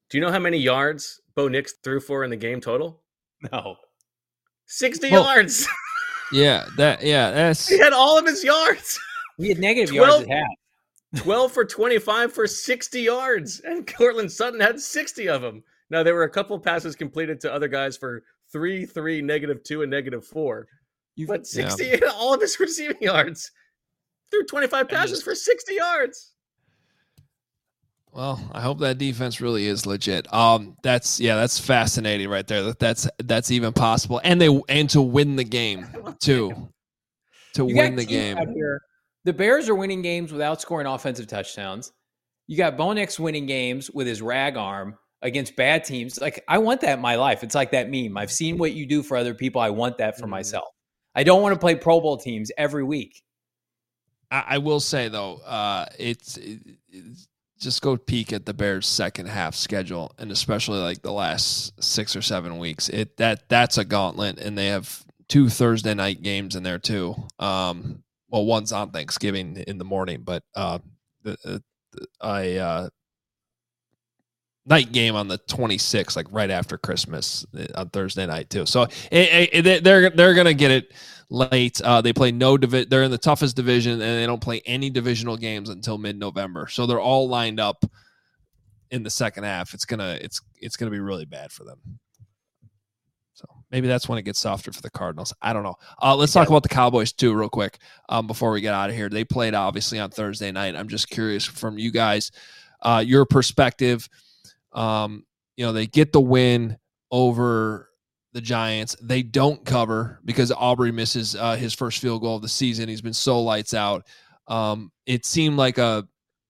Do you know how many yards Bo Nix threw for in the game total? No. sixty Well, yards. Yeah, that yeah, that's He had all of his yards. We had negative twelve yards at half. twelve for twenty-five for sixty yards. And Cortland Sutton had sixty of them. Now, there were a couple passes completed to other guys for three, three, negative two, and negative four. But sixty, yeah. all of his receiving yards. Threw twenty-five passes just, for sixty yards. Well, I hope that defense really is legit. Um, that's yeah, that's fascinating right there. That that's that's even possible, and they and to win the game too. To you win the game. Here. The Bears are winning games without scoring offensive touchdowns. You got Bo Nix winning games with his rag arm against bad teams. Like, I want that in my life. It's like that meme. I've seen what you do for other people. I want that for mm. myself. I don't want to play Pro Bowl teams every week. I, I will say, though, uh, it's, it's just go peek at the Bears' second half schedule, and especially like the last six or seven weeks. It that That's a gauntlet, and they have two Thursday night games in there, too. Um, well, one's on Thanksgiving in the morning, but uh, the, the, I uh, night game on the twenty-sixth, like right after Christmas on Thursday night too. So it, it, they're they're gonna get it late. Uh, they play no divi- They're in the toughest division, and they don't play any divisional games until mid-November. So they're all lined up in the second half. It's gonna it's it's gonna be really bad for them. So maybe that's when it gets softer for the Cardinals. I don't know. Uh, let's talk about the Cowboys too, real quick, um, before we get out of here. They played obviously on Thursday night. I'm just curious from you guys, uh, your perspective. Um, you know, they get the win over the Giants. They don't cover because Aubrey misses uh, his first field goal of the season. He's been so lights out. Um, it seemed like a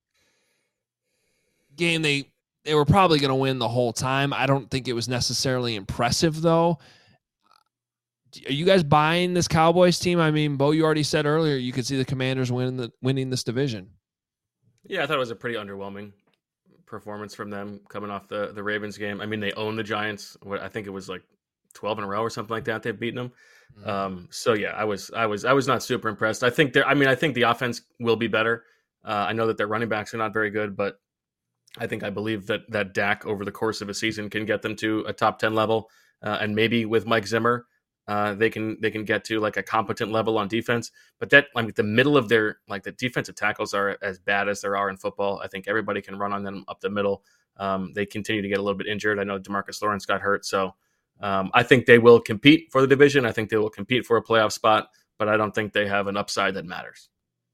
game they they were probably going to win the whole time. I don't think it was necessarily impressive, though. Are you guys buying this Cowboys team? I mean, Bo, you already said earlier you could see the Commanders winning the winning this division. Yeah, I thought it was a pretty underwhelming performance from them coming off the, the Ravens game. I mean, they own the Giants. What I think it was like twelve in a row or something like that. They've beaten them. Mm-hmm. Um, so yeah, I was, I was, I was not super impressed. I think they're, I mean, I think the offense will be better. Uh, I know that their running backs are not very good, but I think I believe that, that Dak over the course of a season can get them to a top ten level. Uh, and maybe with Mike Zimmer, uh, they can, they can get to like a competent level on defense, but that, I mean, the middle of their, like the defensive tackles are as bad as there are in football. I think everybody can run on them up the middle. Um, they continue to get a little bit injured. I know DeMarcus Lawrence got hurt. So um, I think they will compete for the division. I think they will compete for a playoff spot, but I don't think they have an upside that matters.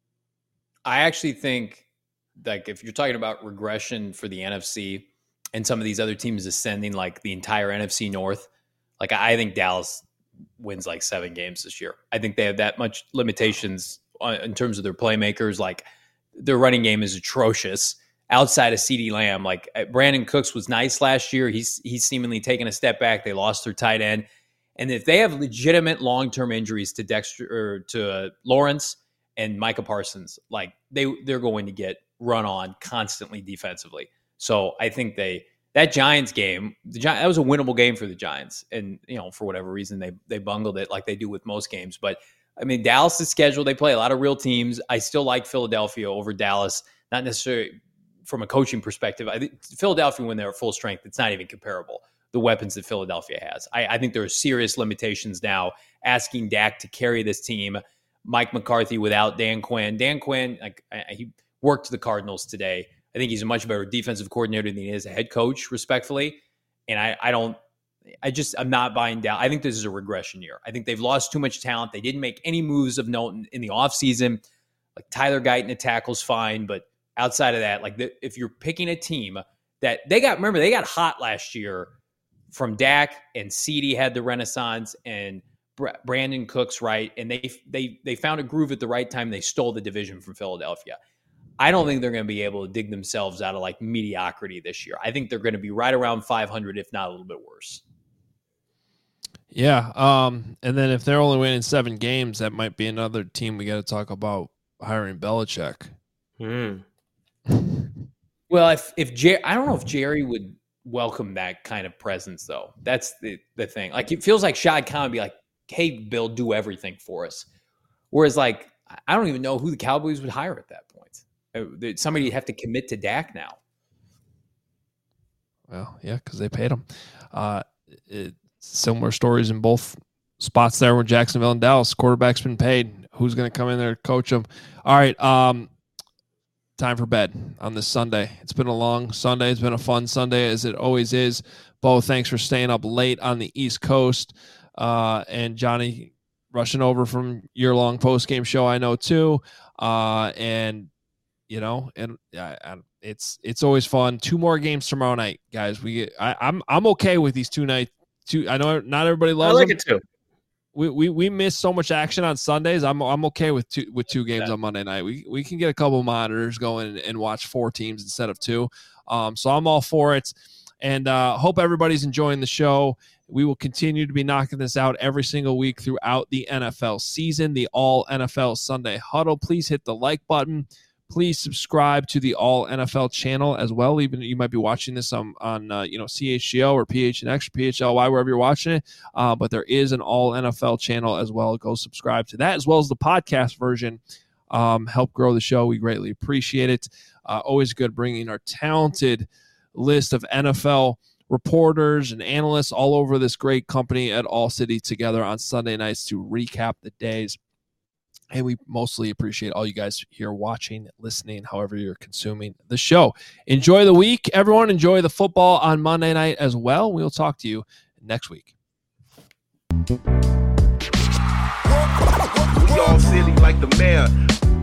I actually think, like, if you're talking about regression for the N F C and some of these other teams ascending, like the entire N F C North, like I think Dallas wins like seven games this year. I think they have that much limitations on, in terms of their playmakers. Like, their running game is atrocious outside of CeeDee Lamb. Like, Brandon Cooks was nice last year. He's he's seemingly taken a step back. They lost their tight end. And if they have legitimate long-term injuries to Dexter or to uh, Lawrence and Micah Parsons, like they they're going to get run on constantly defensively. So I think they that Giants game, the Gi- that was a winnable game for the Giants, and you know, for whatever reason they they bungled it like they do with most games. But I mean, Dallas' schedule, they play a lot of real teams. I still like Philadelphia over Dallas, not necessarily from a coaching perspective. I think Philadelphia, when they're at full strength, it's not even comparable. The weapons that Philadelphia has, I, I think there are serious limitations now. Asking Dak to carry this team, Mike McCarthy without Dan Quinn. Dan Quinn, like I, he worked the Cardinals today. I think he's a much better defensive coordinator than he is a head coach, respectfully. And I, I don't, I just, I'm not buying down. I think this is a regression year. I think they've lost too much talent. They didn't make any moves of note in, in the offseason. Like Tyler Guyton at tackle's fine, but outside of that, like the, if you're picking a team that they got, remember they got hot last year from Dak, and CeeDee had the renaissance, and Brandon Cooks, right? And they they they found a groove at the right time. They stole the division from Philadelphia. I don't think they're going to be able to dig themselves out of like mediocrity this year. I think they're going to be right around five hundred, if not a little bit worse. Yeah. Um, and then if they're only winning seven games, that might be another team we got to talk about hiring Belichick. Hmm. Well, if, if Jer- I don't know if Jerry would welcome that kind of presence, though. That's the, the thing. Like, it feels like Shad Khan would be like, hey, Bill, do everything for us. Whereas, like, I don't even know who the Cowboys would hire at that point. Somebody would have to commit to Dak now. Well, yeah, because they paid him. Uh, it, similar stories in both spots there with Jacksonville and Dallas. Quarterback's been paid. Who's going to come in there and coach them? All right, um, time for bed on this Sunday. It's been a long Sunday. It's been a fun Sunday, as it always is. Bo, thanks for staying up late on the East Coast. Uh, and Johnny rushing over from your long post-game show, I know, too. Uh, and, you know, and I, I, it's it's always fun. Two more games tomorrow night, guys. We get, I, I'm I'm okay with these two nights. Two, I know not everybody loves them. I like them. it, too. We, we we miss so much action on Sundays. I'm I'm okay with two with two games yeah. on Monday night. We we can get a couple monitors going and, and watch four teams instead of two. Um, so I'm all for it, and uh, hope everybody's enjoying the show. We will continue to be knocking this out every single week throughout the N F L season. The All N F L Sunday Huddle. Please hit the like button. Please subscribe to the All N F L channel as well. Even you might be watching this on, on uh, you know, C H G O or P H N X or P H L Y, wherever you're watching it. Uh, but there is an All N F L channel as well. Go subscribe to that, as well as the podcast version. Um, help grow the show. We greatly appreciate it. Uh, always good bringing our talented list of N F L reporters and analysts all over this great company at All City together on Sunday nights to recap the days. And we mostly appreciate all you guys here watching, listening, however you're consuming the show. Enjoy the week, everyone. Enjoy the football on Monday night as well. We'll talk to you next week. We all silly like the mayor.